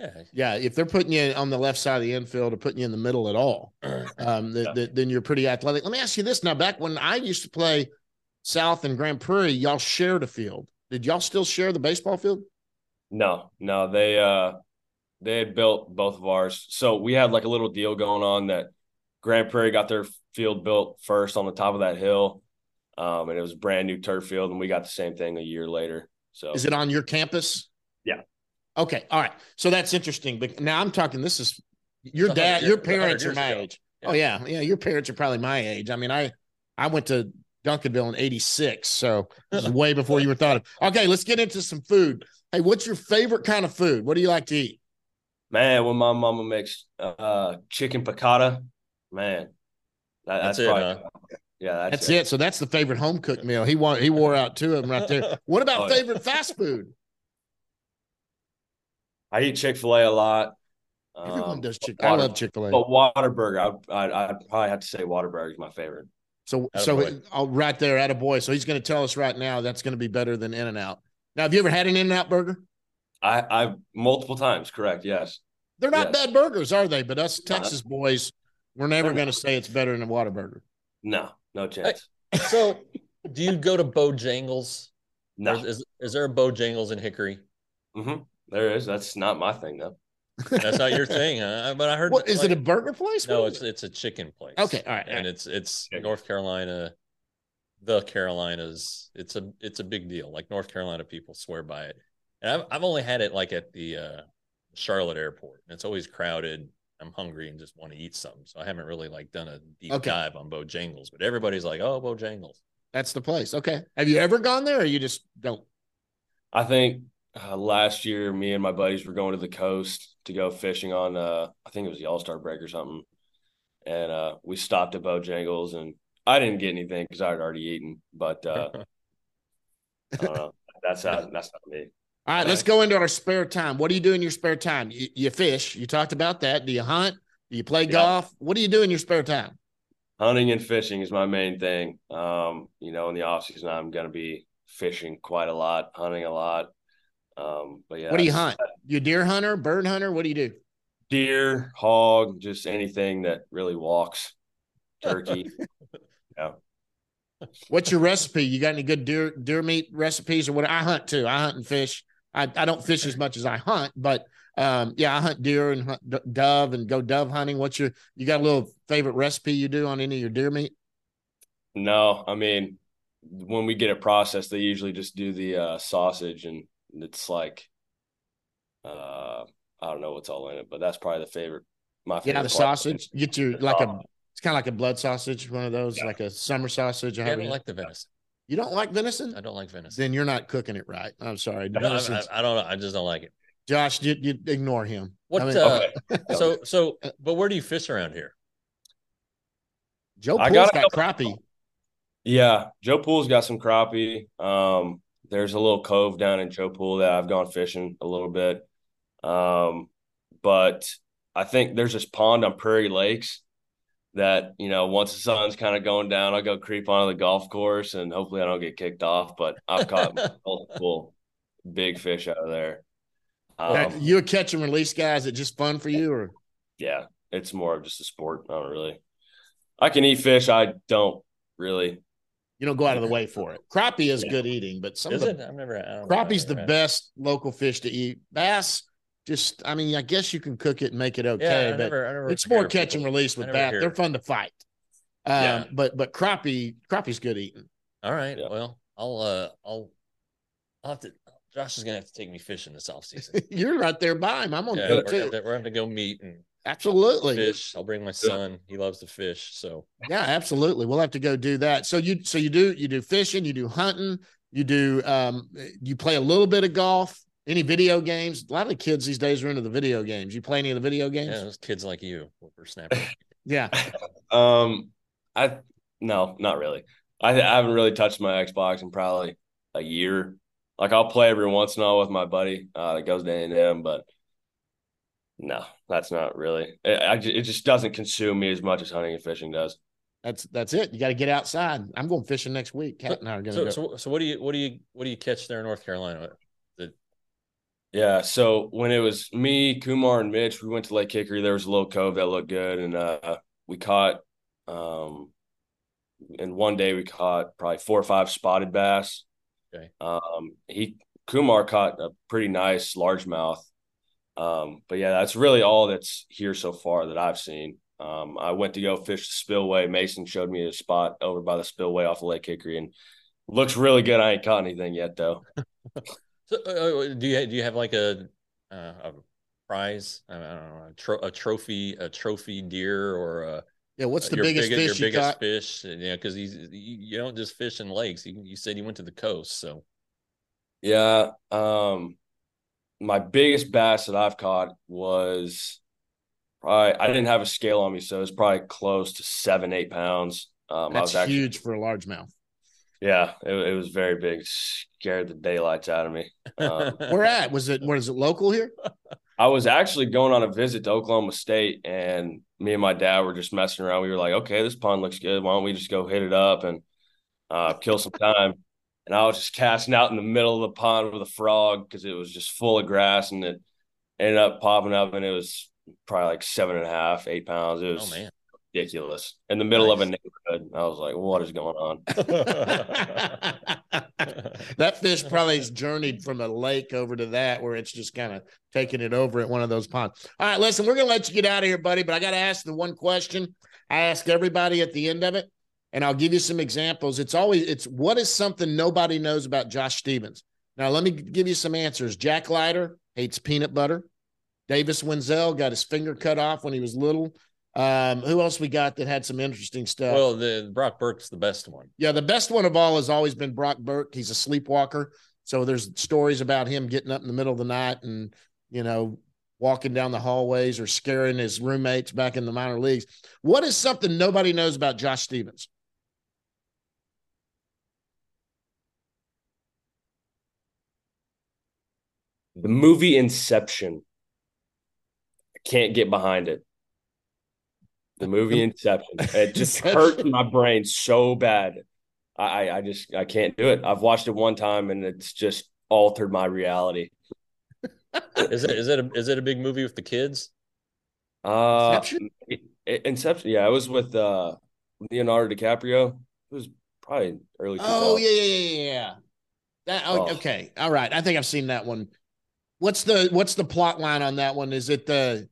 Yeah. Yeah, if they're putting you on the left side of the infield or putting you in the middle at all, um, the, Yeah. the, then you're pretty athletic. Let me ask you this now. Back when I used to play South and Grand Prairie, y'all shared a field. Did y'all still share the baseball field? No, no, they uh they had built both of ours. So we had like a little deal going on that Grand Prairie got their field built first on the top of that hill. Um, and it was a brand new turf field, and we got the same thing a year later. So Is it on your campus? Yeah. Okay. All right. So that's interesting. But now I'm talking, this is your It's a dad, hundred your years- a hundred parents are years my ago. age. Yeah. Oh yeah. Yeah. Your parents are probably my age. I mean, I, I went to Duncanville in eighty-six. So this is way before you were thought of. Okay. Let's get into some food. Hey, what's your favorite kind of food? What do you like to eat? Man, when my mama makes uh chicken piccata, man, that, That's that's, it, probably huh? yeah, that's, That's it. So that's the favorite home cooked meal. He wore, he wore out two of them right there. What about Oh, yeah. favorite fast food? I eat Chick-fil-A a lot. Everyone Um, does Chick. I Water- love Chick-fil-A. But Whataburger, I'd, I'd, I'd probably have to say Whataburger is my favorite. So, Attaboy. so oh, right there, at a boy. So he's going to tell us right now that's going to be better than In-N-Out. Now, have you ever had an In-N-Out burger? I, I've multiple times, correct? Yes. They're not Yes. bad burgers, are they? But us No. Texas boys, we're never They're going to not. say it's better than a Whataburger. No, no chance. So, do you go to Bojangles? No. Or Is is there a Bojangles in Hickory? Mm-hmm. There is. That's not my thing, though. That's not your thing, huh? But I heard. What is like, it? A burger place? No, What it's is it? it's a chicken place. Okay, all right, all and right. it's it's Chicken. North Carolina, the Carolinas. It's a it's a big deal. Like North Carolina people swear by it, and I've I've only had it like at the uh, Charlotte airport, and it's always crowded. I'm hungry and just want to eat something, so I haven't really like done a deep Okay. dive on Bojangles. But everybody's like, "Oh, Bojangles." That's the place. Okay. Have you ever gone there, or you just don't? I think uh, last year, me and my buddies were going to the coast to go fishing on, uh, I think it was the All-Star break or something. And uh, we stopped at Bojangles, and I didn't get anything because I had already eaten. But uh, I don't know. That's not, that's not me. All right, let's go into our spare time. What do you do in your spare time? You, you fish. You talked about that. Do you hunt? Do you play Yeah. golf? What do you do in your spare time? Hunting and fishing is my main thing. Um, you know, in the off season, I'm going to be fishing quite a lot, hunting a lot. Um, but yeah, What do you it's hunt? You deer hunter, bird hunter? What do you do? Deer, hog, just anything that really walks. Turkey. Yeah. What's your recipe? You got any good deer deer meat recipes or what? I hunt too. I hunt and fish. I, I don't fish as much as I hunt, but um, yeah, I hunt deer and hunt d- dove and go dove hunting. What's your, you got a little favorite recipe you do on any of your deer meat? No, I mean, when we get it processed, they usually just do the uh, sausage, and it's like, uh, I don't know what's all in it, but that's probably the favorite. My favorite Yeah, the part. sausage. You get your, like a, it's kind of like a blood sausage, one of those, Yeah. like a summer sausage. or Yeah, I however don't you- like the venison. you don't like venison? I don't like venison. Then you're not cooking it right. I'm sorry. I, don't, I, Venison's- I don't know. I just don't like it. Josh, you, you ignore him. What? I mean, uh, Okay. So so, but where do you fish around here? Joe I Poole's gotta got crappie. Yeah, Joe Poole's got some crappie. Um, there's a little cove down in Joe Poole that I've gone fishing a little bit. Um, but I think there's this pond on Prairie Lakes that, you know, once the sun's kind of going down, I'll go creep onto the golf course and hopefully I don't get kicked off. But I've caught multiple big fish out of there. Uh, Um, you a catch and release guy? Is it just fun for you, or yeah, it's more of just a sport. I don't really. I can eat fish. I don't really. you don't go out of the way for it? Crappie is Yeah. good eating, but some Is of the it? I've never. I don't know. crappie's I've the never had it. best local fish to eat. Bass, just I mean, I guess you can cook it and make it Yeah, okay, I but never, I never it's hear more of catch and people- release I with never that. hear They're it. fun to fight. Um, Yeah. but but crappie crappie's good eating. All right. Yeah. Well, I'll uh, I'll, I'll have to. Josh is gonna have to take me fishing this off season. You're right there by him. I'm on Yeah, go we're, too. gonna, we're gonna go meet and Absolutely. fish. I'll bring my son. He loves to fish. So Yeah, absolutely. We'll have to go do that. So you so you do you do fishing, you do hunting, you do um you play a little bit of golf, any video games. A lot of the kids these days are into the video games. You play any of the video games? yeah, those kids like you, whippersnapper. Yeah. Um, I no, not really. I, I haven't really touched my Xbox in probably a year. Like I'll play every once in a while with my buddy uh, that goes to A and M, but no, that's not really. It, I, ju- it just doesn't consume me as much as hunting and fishing does. That's that's it. You got to get outside. I'm going fishing next week. Kat and I are going to So, go. so, so what do you, what do you, what do you catch there in North Carolina? The Yeah, so when it was me, Kumar, and Mitch, we went to Lake Hickory. There was a little cove that looked good, and uh, we caught. Um, in one day, we caught probably four or five spotted bass. Okay. Um, he Kumar caught a pretty nice largemouth. Um, but yeah, that's really all that's here so far that I've seen. Um, I went to go fish the spillway. Mason showed me a spot over by the spillway off of Lake Hickory, and looks really good. I ain't caught anything yet though. So, uh, do you do you have like a uh, a prize? I don't know, a, tro- a trophy, a trophy deer, or a, Yeah, what's the your biggest biggest your fish you biggest caught? fish? You know, because you, you don't just fish in lakes. You, you said you went to the coast, so Yeah. Um, my biggest bass that I've caught was probably I didn't have a scale on me, so it was probably close to seven, eight pounds. Um, I That's was actually huge for a largemouth. yeah, it, it was very big. Scared the daylights out of me. Um, Where at? Was it? Where is it? Local here? I was actually going on a visit to Oklahoma State, and me and my dad were just messing around. We were like, okay, this pond looks good. Why don't we just go hit it up and uh, kill some time? And I was just casting out in the middle of the pond with a frog because it was just full of grass, and it ended up popping up, and it was probably like seven and a half, eight pounds. It oh was man, ridiculous in the middle of a nice. neighborhood. I was like, what is going on? That fish probably has journeyed from a lake over to that where it's just kind of taking it over at one of those ponds. All right, listen, we're going to let you get out of here, buddy, but I got to ask the one question I ask everybody at the end of it, and I'll give you some examples. It's always, it's what is something nobody knows about Josh Stevens? Now, let me give you some answers. Jack Leiter hates peanut butter. Davis Wenzel got his finger cut off when he was little. Um, who else we got that had some interesting stuff? Well, the Brock Burke's the best one. Yeah, the best one of all has always been Brock Burke. He's a sleepwalker. So there's stories about him getting up in the middle of the night and, you know, walking down the hallways or scaring his roommates back in the minor leagues. What is something nobody knows about Josh Stevens? The movie Inception. I can't get behind it. The movie Inception. It just hurt my brain so bad. I, I just I can't do it. I've watched it one time and it's just altered my reality. Is it is it a, is it a big movie with the kids? Uh, Inception? Inception. Yeah, it was with uh Leonardo DiCaprio. It was probably early two thousands. Oh, yeah, yeah, yeah, yeah. That, oh, Oh. okay. All right. I think I've seen that one. What's the what's the plot line on that one? Is it the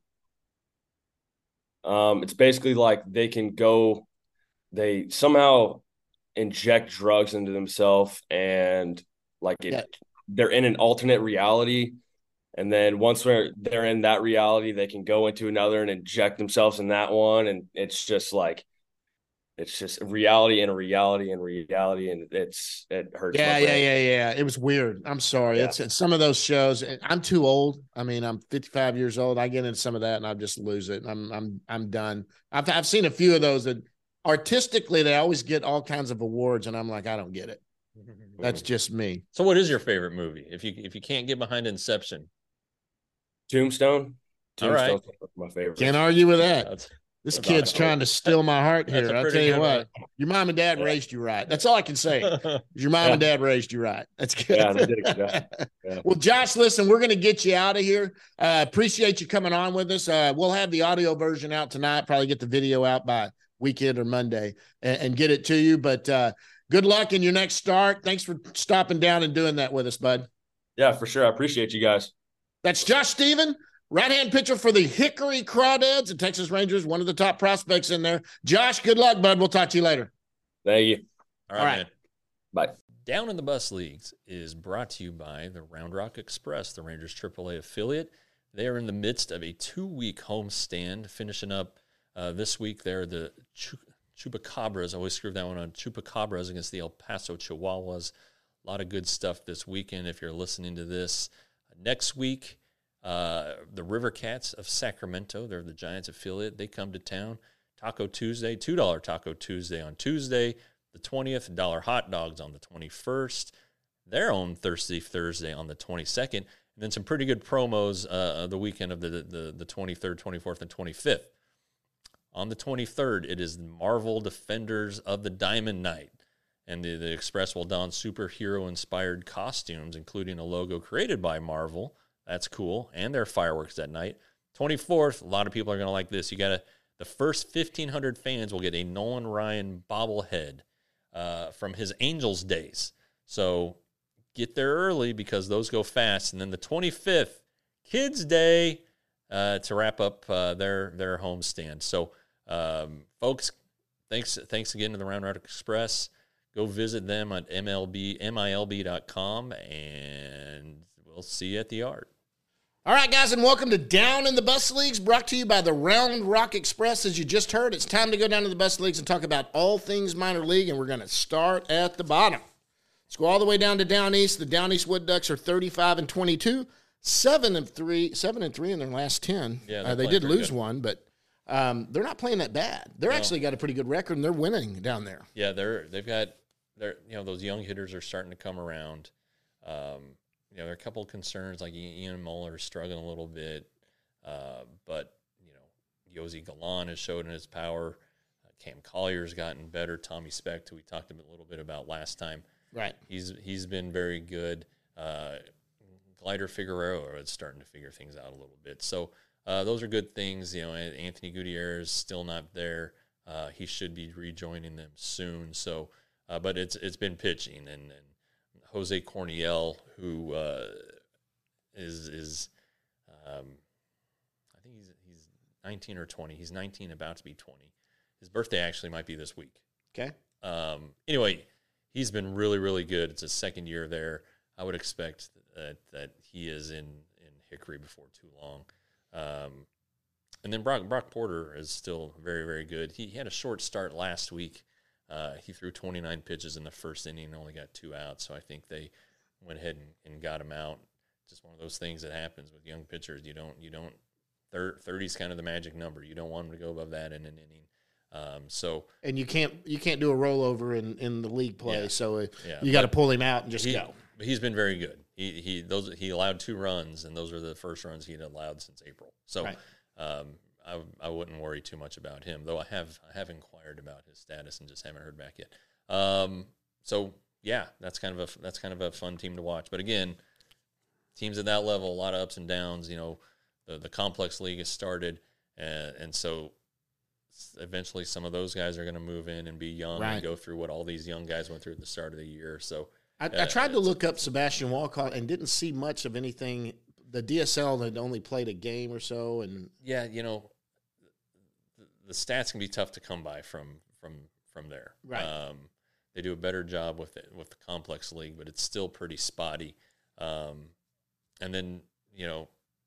Um, it's basically like they can go, they somehow inject drugs into themselves and like it, yeah, they're in an alternate reality. And then once they're they're in that reality, they can go into another and inject themselves in that one. And it's just like it's just reality and a reality and reality, and it's it hurts Yeah, my yeah, brain. yeah, yeah. It was weird. I'm sorry. Yeah. It's, it's some of those shows. I'm too old. I mean, I'm fifty-five years old. I get into some of that and I just lose it. I'm I'm I'm done. I've I've seen a few of those that artistically they always get all kinds of awards, and I'm like, I don't get it. That's just me. So, what is your favorite movie? If you if you can't get behind Inception, Tombstone. all right, Tombstone's my favorite. Can't argue with that. that's This that's kid's awesome. trying to steal my heart That's here. a I'll pretty tell you good what. one. Your mom and dad raised you right. That's all I can say. Your mom Yeah. and dad raised you right. That's good. Yeah, they did a good job. Yeah. Well, Josh, listen, we're going to get you out of here. Uh, appreciate you coming on with us. Uh, we'll have the audio version out tonight, probably get the video out by weekend or Monday and, and get it to you. But uh, good luck in your next start. Thanks for stopping down and doing that with us, bud. Yeah, for sure. I appreciate you guys. That's Josh Stephen, right-hand pitcher for the Hickory Crawdads, the Texas Rangers, one of the top prospects in there. Josh, good luck, bud. We'll talk to you later. Thank you. All right, All right. man. Bye. Down in the Bus Leagues is brought to you by the Round Rock Express, the Rangers triple A affiliate. They are in the midst of a two-week homestand, finishing up uh, this week. They're the Ch- Chupacabras. I always screw that one on. Chupacabras against the El Paso Chihuahuas. A lot of good stuff this weekend if you're listening to this. Next week, uh, the River Cats of Sacramento, they're the Giants affiliate. They come to town. Taco Tuesday, two dollar Taco Tuesday on Tuesday. The twentieth, dollar hot dogs on the twenty-first, their own Thirsty Thursday on the twenty-second, and then some pretty good promos uh, the weekend of the, the, the twenty-third, twenty-fourth, and twenty-fifth. On the twenty-third, it is Marvel Defenders of the Diamond Knight, and the, the Express will don superhero-inspired costumes, including a logo created by Marvel That's cool. And there are fireworks that night. twenty-fourth, a lot of people are going to like this. You got to, the first fifteen hundred fans will get a Nolan Ryan bobblehead uh, from his Angels days. So get there early because those go fast. And then the twenty-fifth, Kids Day, uh, to wrap up uh, their their homestand. So, um, folks, thanks thanks again to the Round Rock Express. Go visit them at M L B M I L B dot com, and we'll see you at the yard. All right, guys, and welcome to Down in the Bus Leagues, brought to you by the Round Rock Express. As you just heard, it's time to go down to the Bus Leagues and talk about all things minor league, and we're going to start at the bottom. Let's go all the way down to Down East. The Down East Wood Ducks are thirty-five and twenty-two, seven and three, seven and three in their last ten. Yeah, uh, they did lose good. one, but um, they're not playing that bad. They're No. actually got a pretty good record, and they're winning down there. Yeah, they're they've got they're you know those young hitters are starting to come around. Um, you know, there are a couple of concerns like Ian Muller is struggling a little bit, uh, but you know, Yosi Galan has showed in his power. Uh, Cam Collier's gotten better. Tommy Specht, who we talked a bit- little bit about last time, Right. he's he's been very good. Uh, Glider Figueroa is starting to figure things out a little bit. So uh, those are good things. You know, Anthony Gutierrez still not there. Uh, he should be rejoining them soon. So, uh, but it's it's been pitching, and, and Jose Corniel, who uh, is is um, I think he's he's nineteen or twenty. He's nineteen, about to be twenty. His birthday actually might be this week. Okay. Um, anyway, he's been really, really good. It's his second year there. I would expect that, that he is in, in Hickory before too long. Um, and then Brock, Brock Porter is still very, very good. He, he had a short start last week. Uh, he threw twenty-nine pitches in the first inning and only got two outs. So I think they went ahead and, and got him out. Just one of those things that happens with young pitchers. You don't, you don't, thirty is kind of the magic number. You don't want them to go above that in an inning. Um, so And you can't you can't do a rollover in, in the league play, Yeah. so uh, Yeah, you got to but pull him out and just he, go. But he's been very good. He he those he allowed two runs, and those are the first runs he'd allowed since April. So Right. um, I I wouldn't worry too much about him, though I have I have inquired about his status and just haven't heard back yet. Um, so yeah, that's kind of a that's kind of a fun team to watch. But again, teams at that level, a lot of ups and downs. You know, the the complex league has started, and and so eventually some of those guys are going to move in and be young Right. and go through what all these young guys went through at the start of the year. So. I, I Uh, tried to look up Sebastian Walcott and didn't see much of anything. The D S L had only played a game or so, and Yeah, you know, the, the stats can be tough to come by from from from there. Right. Um, they do a better job with it with the complex league, but it's still pretty spotty. Um, and then you know,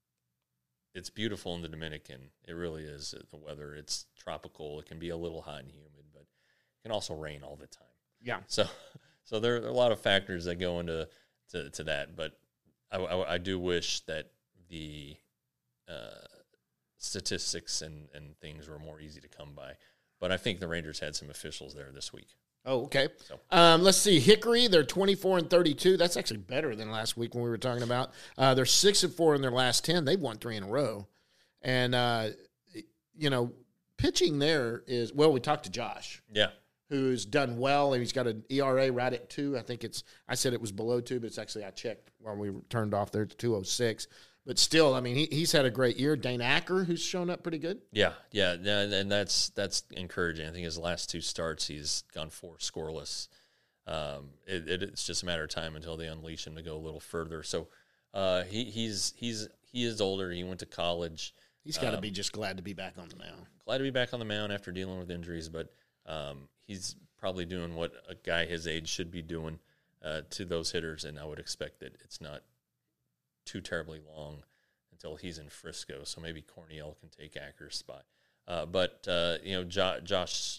it's beautiful in the Dominican. It really is. The weather, it's tropical. It can be a little hot and humid, but it can also rain all the time. yeah, So, so there are a lot of factors that go into to, to that. But I, I, I do wish that the uh, statistics and, and things were more easy to come by. But I think the Rangers had some officials there this week. Oh, okay. So. Um, let's see. Hickory, they're twenty-four and thirty-two. That's actually better than last week when we were talking about. Uh, they're six and four in their last ten. They've won three in a row. And, uh, you know, pitching there is, well, we talked to Josh, Yeah. who's done well, and he's got an E R A right at two. I think it's, I said it was below two, but it's actually, I checked while we turned off there to two oh six. But still, I mean, he, he's had a great year. Dane Acker, who's shown up pretty good. Yeah, yeah, and and that's that's encouraging. I think his last two starts, he's gone four scoreless. Um, it, it, it's just a matter of time until they unleash him to go a little further. So uh, he he's he's he is older. He went to college. He's got to Um, be just glad to be back on the mound. Glad to be back on the mound after dealing with injuries, but um, he's probably doing what a guy his age should be doing uh, to those hitters, and I would expect that it's not too terribly long until he's in Frisco, so maybe Corniel can take Acker's spot. Uh, but, uh, you know, jo- Josh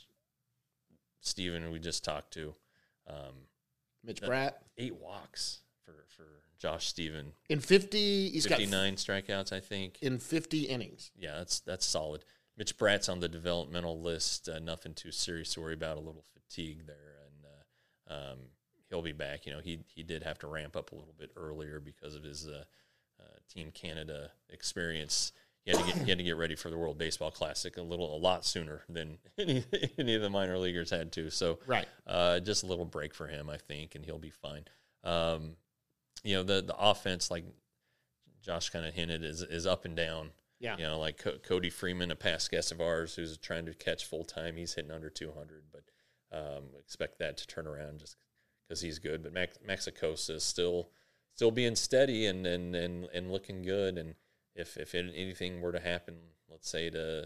Steven, we just talked to, um, Mitch that- Bratt. eight walks for, for Josh Steven. In fifty, he's got fifty-nine strikeouts, I think. in fifty innings. Yeah, that's that's solid. Mitch Bratt's on the developmental list. Uh, nothing too serious to worry about. A little fatigue there, and uh, um, he'll be back. You know, he he did have to ramp up a little bit earlier because of his uh, uh, Team Canada experience. He had to get he had to get ready for the World Baseball Classic a little a lot sooner than any, any of the minor leaguers had to. So Right. uh, just a little break for him, I think, and he'll be fine. Um, you know, the the offense, like Josh kind of hinted, is is up and down. Yeah. You know, like Co- Cody Freeman, a past guest of ours who's trying to catch full time. He's hitting under two hundred, but um, expect that to turn around just because he's good. But Max, Maxicosa is still still being steady and, and, and, and looking good. And if if anything were to happen, let's say to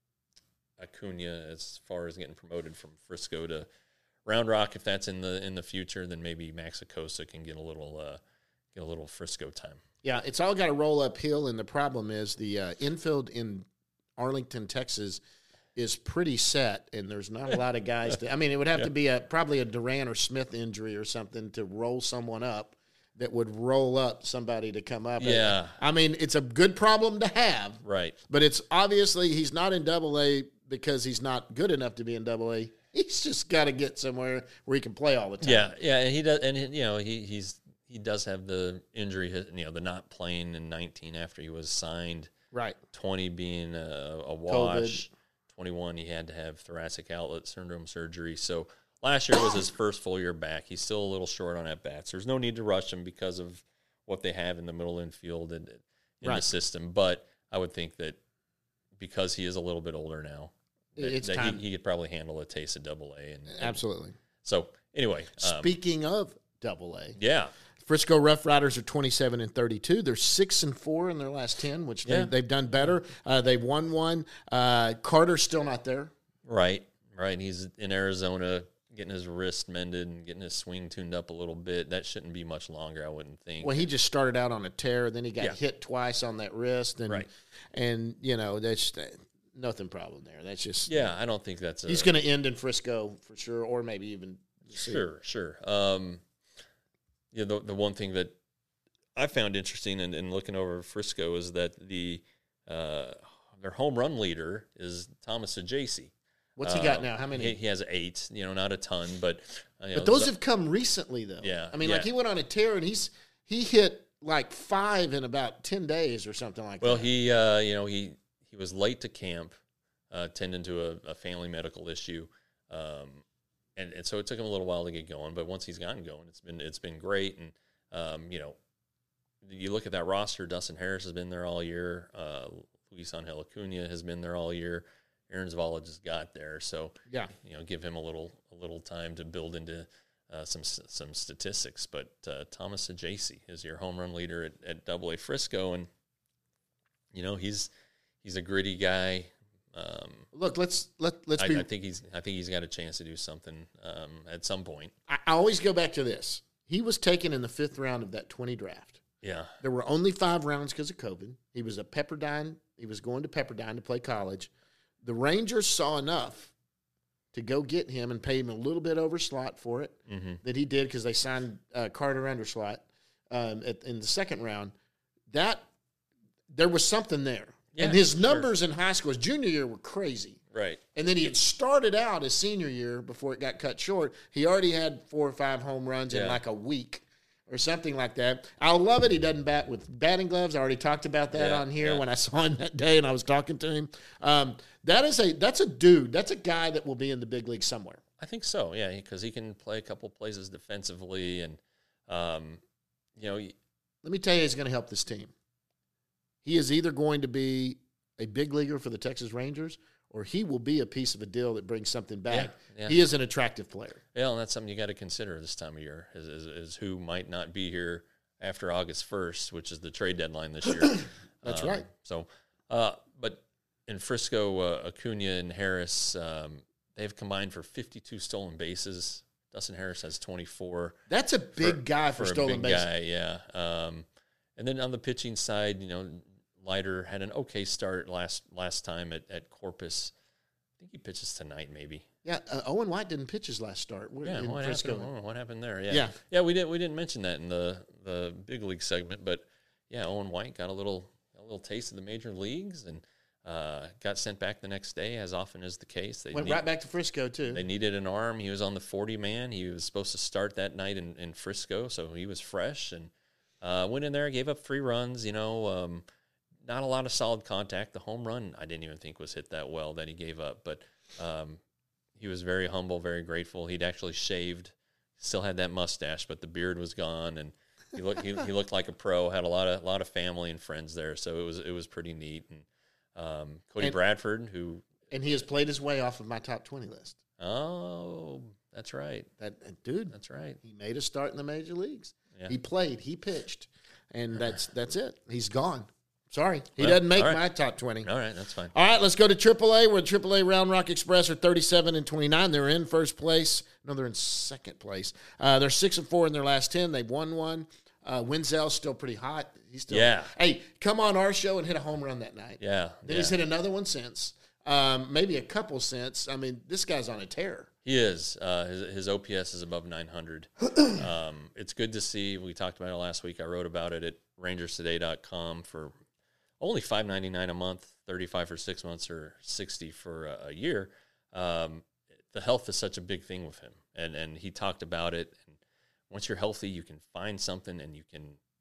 Acuna, as far as getting promoted from Frisco to Round Rock, if that's in the in the future, then maybe Maxicosa can get a little uh, get a little Frisco time. Yeah, it's all got to roll uphill, and the problem is the uh, infield in Arlington, Texas, is pretty set, and there's not a lot of guys. To, I mean, it would have Yeah. to be a probably a Duran or Smith injury or something to roll someone up that would roll up somebody to come up. Yeah. I mean, it's a good problem to have, Right. but it's obviously he's not in Double A because he's not good enough to be in Double A. He's just got to get somewhere where he can play all the time. Yeah, yeah, and he does, and he, you know, he he's he does have the injury, you know, the not playing in nineteen after he was signed. Right. twenty being a, a wash. twenty-one, he had to have thoracic outlet syndrome surgery. So last year was his first full year back. He's still a little short on at bats. There's no need to rush him because of what they have in the middle infield and in Right. the system. But I would think that because he is a little bit older now, that, It's that time. he, he could probably handle a taste of Double A. And, and Absolutely. so anyway, um, Speaking of Double A, yeah, Frisco Rough Riders are twenty-seven and thirty-two. They're six and four in their last ten, which Yeah. they, they've done better. Uh, they've won one. Uh, Carter's still not there. right, right. He's in Arizona getting his wrist mended and getting his swing tuned up a little bit. That shouldn't be much longer, I wouldn't think. Well, he just started out on a tear, then he got Yeah. hit twice on that wrist, and Right. and you know that's uh, nothing problem there. That's just Yeah, I don't think that's a he's going to end in Frisco for sure, or maybe even sure, sure. Um, yeah, the the one thing that I found interesting in, in looking over Frisco is that the uh, their home run leader is Thomas Ajacey. What's he got Uh, now? How many? He, he has eight. You know, not a ton, but uh, you know, But those Z- have come recently, though. Yeah, I mean, yeah. like he went on a tear and he's he hit like five in about ten days or something like well, that. he uh, you know he he was late to camp, uh, tending to a, a family medical issue. Um, And, and so it took him a little while to get going, but once he's gotten going, it's been it's been great. And um, you know, you look at that roster. Dustin Harris has been there all year. Uh, Luis Angel Acuna has been there all year. Aaron Zavala just got there, so yeah, you know, give him a little a little time to build into uh, some some statistics. But uh, Thomas Ajacey is your home run leader at, at Double A Frisco, and you know he's he's a gritty guy. Um, look, let's let let's I, be. I think he's I think he's got a chance to do something um, at some point. I, I always go back to this. He was taken in the fifth round of that twenty draft. Yeah, There were only five rounds because of COVID. He was a Pepperdine. He was going to Pepperdine to play college. The Rangers saw enough to go get him and pay him a little bit over slot for it mm-hmm. that he did because they signed uh, Carter under slot um, at, in the second round. That there was something there. Yeah, and his sure. numbers in high school, his junior year, were crazy. right. And then he had started out his senior year before it got cut short. He already had four or five home runs in Yeah. like a week or something like that. I love it. He doesn't bat with batting gloves. I already talked about that Yeah, on here yeah. when I saw him that day and I was talking to him. Um, that is a that's a dude. That's a guy that will be in the big league somewhere. I think so. Yeah, because he can play a couple places defensively, and um, you know, Let me tell you, he's going to help this team. He is either going to be a big leaguer for the Texas Rangers, or he will be a piece of a deal that brings something back. Yeah, yeah. He is an attractive player. yeah, and that's something you got to consider this time of year is, is is who might not be here after August first, which is the trade deadline this year. That's Um, right. So, uh, but in Frisco, uh, Acuna and Harris, um, they've combined for fifty-two stolen bases. Dustin Harris has twenty-four. That's a big for- guy for, a stolen big bases. guy, yeah. Um, and then on the pitching side, you know, Leiter had an okay start last last time at, at Corpus. I think he pitches tonight, maybe. Yeah, uh, Owen White didn't pitch his last start. We're Yeah, in what Frisco. happened? Oh, what happened there? Yeah. Yeah. yeah, We didn't we didn't mention that in the, the big league segment, but yeah, Owen White got a little a little taste of the major leagues and uh, got sent back the next day, as often is the case. They Went need- right back to Frisco too. They needed an arm. He was on the forty man. He was supposed to start that night in, in Frisco, so he was fresh and uh, went in there, gave up three runs. You know, um, not a lot of solid contact. The home run I didn't even think was hit that well that he gave up, but um, he was very humble, very grateful. He'd actually shaved, still had that mustache, but the beard was gone, and he looked he, he looked like a pro. Had a lot of lot of family and friends there, so it was it was pretty neat. And um, Cody And- Bradford, who And he has played his way off of my top twenty list. oh, that's right, That uh, dude, that's right. he made a start in the major leagues. Yeah. He played, he pitched, and that's that's it. He's gone. Sorry, he Well, doesn't make all right. my top twenty. All right, that's fine. All right, let's go to triple A. Where triple A Round Rock Express are thirty-seven and twenty-nine. They're in first place. No, they're in second place. Uh, they're six and four in their last ten. They've won one. Uh, Wenzel's still pretty hot. He's still Yeah. Hey, come on our show and hit a home run that night. Yeah, Then yeah. he's hit another one since. Um, maybe a couple since. I mean, this guy's on a tear. He is. Uh, his, his O P S is above nine hundred. um, it's good to see. We talked about it last week. I wrote about it at rangers today dot com for only five ninety-nine a month, thirty-five for six months, or sixty for a, a year. Um, the health is such a big thing with him, and and he talked about it. And once you're healthy, you can find something and you can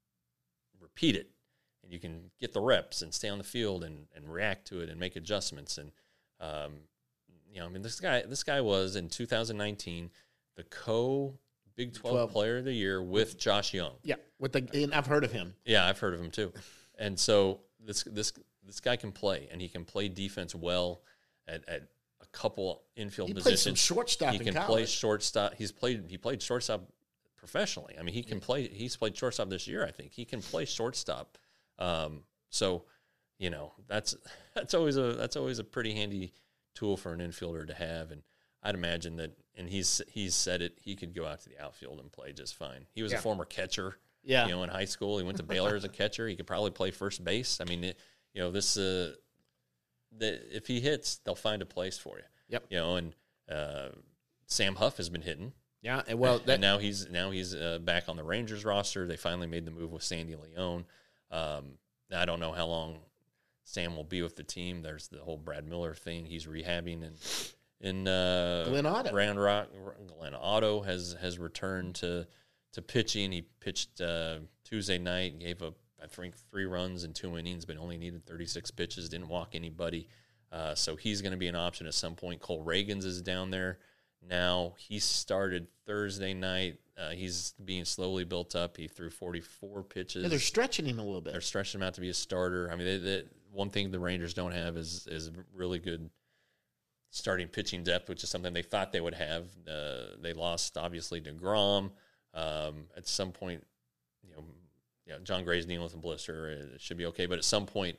repeat it, and you can get the reps and stay on the field and, and react to it and make adjustments. And um, you know, I mean, this guy this guy was in two thousand nineteen the co Big twelve, twelve. Player of the Year with Josh Young. Yeah, with the and I've heard of him. Yeah, I've heard of him too. And so this this this guy can play, and he can play defense well at, at a couple infield He played positions. some shortstop He in can college. play shortstop. He's played he played shortstop professionally. I mean, he can play. He's played shortstop this year. I think he can play shortstop. Um, so, you know, that's that's always a that's always a pretty handy tool for an infielder to have. And I'd imagine that, and he's he's said it, he could go out to the outfield and play just fine. He was Yeah. a former catcher. Yeah. You know, in high school, he went to Baylor as a catcher. He could probably play first base. I mean, it, you know, this uh, the, if he hits, they'll find a place for you. Yep. You know, and uh, Sam Huff has been hitting. Yeah, and well, that, and now he's now he's uh, back on the Rangers roster. They finally made the move with Sandy Leone. Um, I don't know how long Sam will be with the team. There's the whole Brad Miller thing. He's rehabbing in in uh, Glenn Otto. Round Rock. Glenn Otto has has returned to to pitching. He pitched uh, Tuesday night. Gave up I think three runs in two innings, but only needed thirty-six pitches. Didn't walk anybody. Uh, so he's going to be an option at some point. Cole Reagans is down there now. He started Thursday night. Uh, he's being slowly built up. He threw forty-four pitches. yeah, they're stretching him a little bit. They're stretching him out to be a starter. I mean, they, they, one thing the Rangers don't have is is really good starting pitching depth, which is something they thought they would have. Uh, they lost, obviously, DeGrom. Um, at some point, you know, yeah, John Gray's dealing with a blister. It should be okay. But at some point,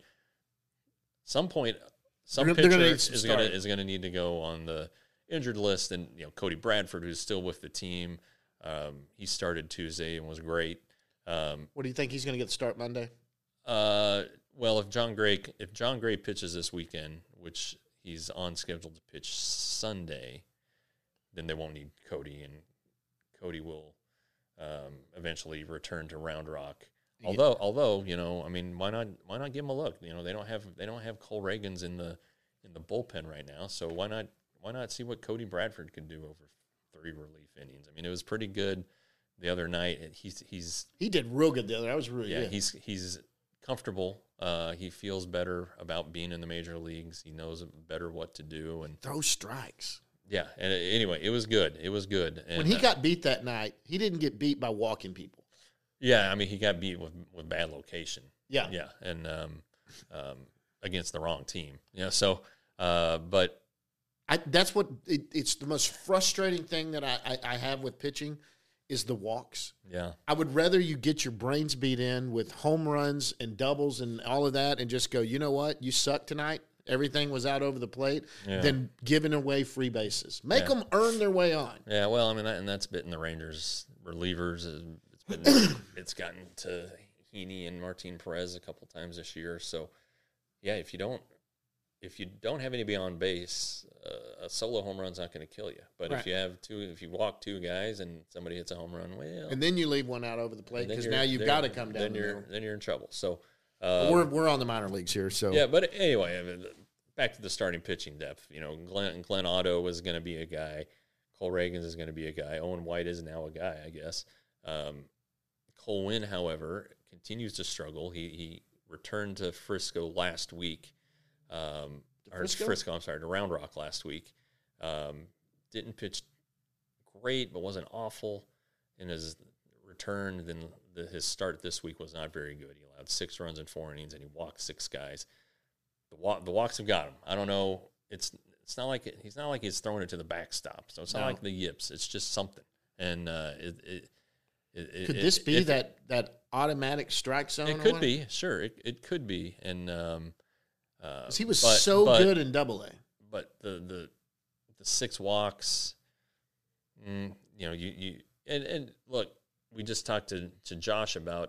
some point, some They're pitcher gonna need some is going to start. is going to need to go on the injured list. And you know, Cody Bradford, who's still with the team, um, he started Tuesday and was great. Um, What do you think he's going to get the start Monday? uh, well, if John Gray if John Gray pitches this weekend, which he's on schedule to pitch Sunday, then they won't need Cody, and Cody will um, eventually return to Round Rock. Yeah. Although, although you know, I mean, why not? Why not give him a look? You know, they don't have they don't have Cole Reagans in the in the bullpen right now, so why not? Why not see what Cody Bradford could do over three relief innings? I mean, it was pretty good the other night. And he's he's He did real good the other. That was really yeah good. he's he's comfortable. Uh, he feels better about being in the major leagues. He knows better what to do, and Throw strikes. yeah. And uh, anyway, it was good. It was good. And, When he uh, got beat that night, he didn't get beat by walking people. yeah, I mean, he got beat with with bad location. Yeah. Yeah, and um, um, against the wrong team. Yeah, so uh, but I, that's what it, it's the most frustrating thing that I, I, I have with pitching is the walks. yeah, I would rather you get your brains beat in with home runs and doubles and all of that and just go, you know what, you suck tonight. Everything was out over the plate, Yeah. than giving away free bases. Make Yeah. them earn their way on. yeah. Well, I mean, that, and that's bitten the Rangers relievers. It's been it's gotten to Heaney and Martin Perez a couple times this year. So yeah, if you don't if you don't have anybody on base, uh, a solo home run's not going to kill you. But Right. if you have two, if you walk two guys and somebody hits a home run, well, And then you leave one out over the plate then because you're- now you've then- got to come down Then the you're middle. then you're in trouble. So But uh, we're we're on the minor leagues here, so yeah, but anyway, I mean, back to the starting pitching depth. You know, Glenn Glenn Otto is going to be a guy. Cole Reagans is going to be a guy. Owen White is now a guy, I guess. Um, Cole Winn, however, continues to struggle. He he returned to Frisco last week. Um, or Frisco? Frisco, I'm sorry, to Round Rock last week. Um, didn't pitch great, but wasn't awful in his return. Then the, his start this week was not very good. He allowed six runs in four innings, and he walked six guys. The walk, the walks have got him. I don't know. It's it's not like it, he's not like he's throwing it to the backstop. So it's not No. like the yips. It's just something. And uh, it, it, it Could it, this be if, that that automatic strike zone? It or could what? be. Sure, it it could be. And um, uh, 'Cause he was but- so but- good in Double A. But the the the six walks, mm, you know, you you and, and look, we just talked to, to Josh about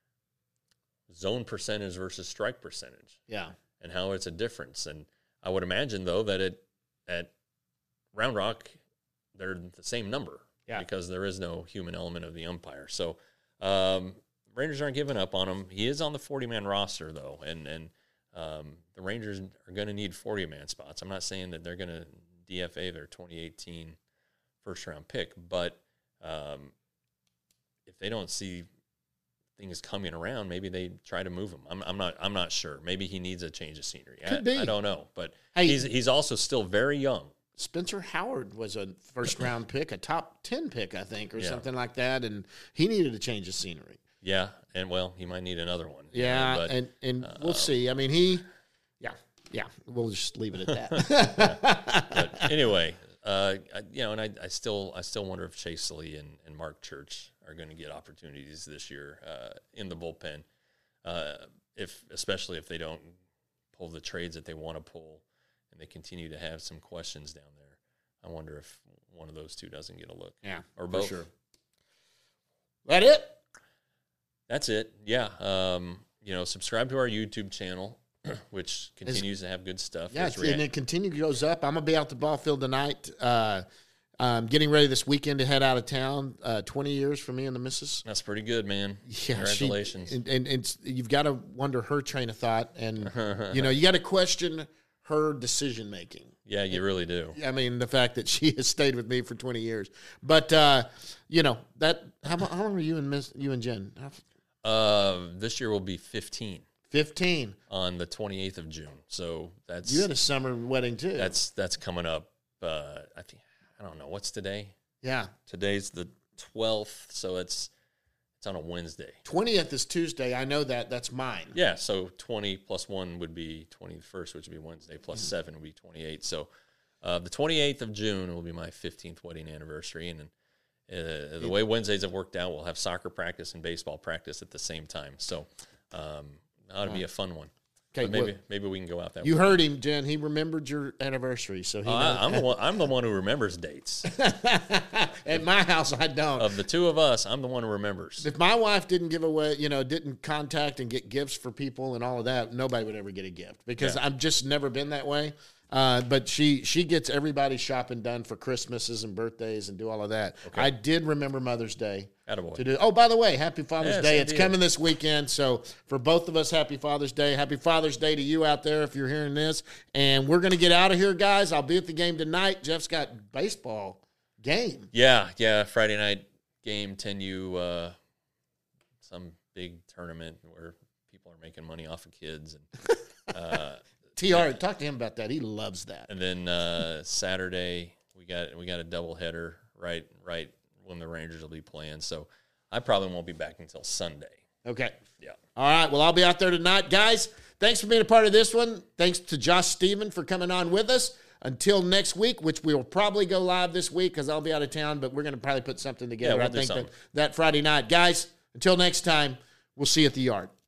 zone percentage versus strike percentage Yeah. and how it's a difference. And I would imagine though that it at Round Rock they're the same number, Yeah. because there is no human element of the umpire. So um, Rangers aren't giving up on him. He is on the forty man roster though, and and. Um, the Rangers are going to need forty man spots. I'm not saying that they're going to D F A their twenty eighteen first round pick, but um, if they don't see things coming around, maybe they try to move him. I'm, I'm not. I'm not sure. Maybe he needs a change of scenery. Could I, be. I don't know, but Hey. he's he's also still very young. Spencer Howard was a first round pick, a top ten pick, I think, or Yeah. something like that, and he needed a change of scenery. Yeah, and well, he might need another one. you Yeah, know, but, and and uh, we'll see. I mean, he, yeah, yeah. We'll just leave it at that. but anyway, uh, I, you know, and I, I still, I still wonder if Chase Lee and, and Mark Church are going to get opportunities this year uh, in the bullpen, uh, if especially if they don't pull the trades that they want to pull, and they continue to have some questions down there. I wonder if one of those two doesn't get a look. Yeah, or for both. sure. That it? That's it. Yeah. Um, you know, subscribe to our YouTube channel, which continues to have good stuff. Yeah, There's it's- and rea- it continues goes up. I'm gonna be out the ball field tonight. Uh, um, getting ready this weekend to head out of town. Uh, Twenty years for me and the missus. That's pretty good, man. Yeah, she- Congratulations. and, and it's you've got to wonder her train of thought, and you know you got to question her decision making. yeah, you really do. I mean, the fact that she has stayed with me for twenty years, but uh, you know that how, mu- how long were you and Miss you and Jen? How- Uh, this year will be fifteen Fifteen. on the twenty-eighth of June. So that's You had a summer wedding too. that's that's coming up. Uh, I think I don't know what's today. yeah. Today's the twelfth, so it's it's on a Wednesday. Twentieth is Tuesday. I know that. That's mine. Yeah, so twenty plus one would be twenty-first, which would be Wednesday, plus Mm-hmm. seven would be twenty-eight. So uh, the twenty-eighth of June will be my fifteenth wedding anniversary, and then uh, the way Wednesdays have worked out, we'll have soccer practice and baseball practice at the same time. So um, ought to be a fun one. Okay, But maybe well, maybe we can go out that you way. heard him, Jen. He remembered your anniversary, so he. Uh, knows- I, I'm the one. I'm the one who remembers dates. At my house, I don't. Of the two of us, I'm the one who remembers. If my wife didn't give away, you know, didn't contact and get gifts for people and all of that, nobody would ever get a gift because Yeah. I've just never been that way. Uh, but she she gets everybody shopping done for Christmases and birthdays and do all of that. I did remember Mother's Day Attaboy. to do. Oh, by the way, Happy Father's Yeah, Day! same It's to you. coming this weekend, so for both of us, Happy Father's Day! Happy Father's Day to you out there if you're hearing this. And we're gonna get out of here, guys. I'll be at the game tonight. Jeff's got baseball game. Yeah, yeah. Friday night game, ten U, uh, some big tournament where people are making money off of kids, and uh, T R, talk to him about that. He loves that. and then uh, Saturday we got we got a doubleheader right right when the Rangers will be playing. So I probably won't be back until Sunday. Okay. Yeah. All right. Well, I'll be out there tonight. Guys, thanks for being a part of this one. Thanks to Josh Stephen for coming on with us. Until next week, which we will probably go live this week because I'll be out of town, but we're going to probably put something together. Yeah, we'll I do think something. that, that Friday night. Guys, until next time, we'll see you at the yard.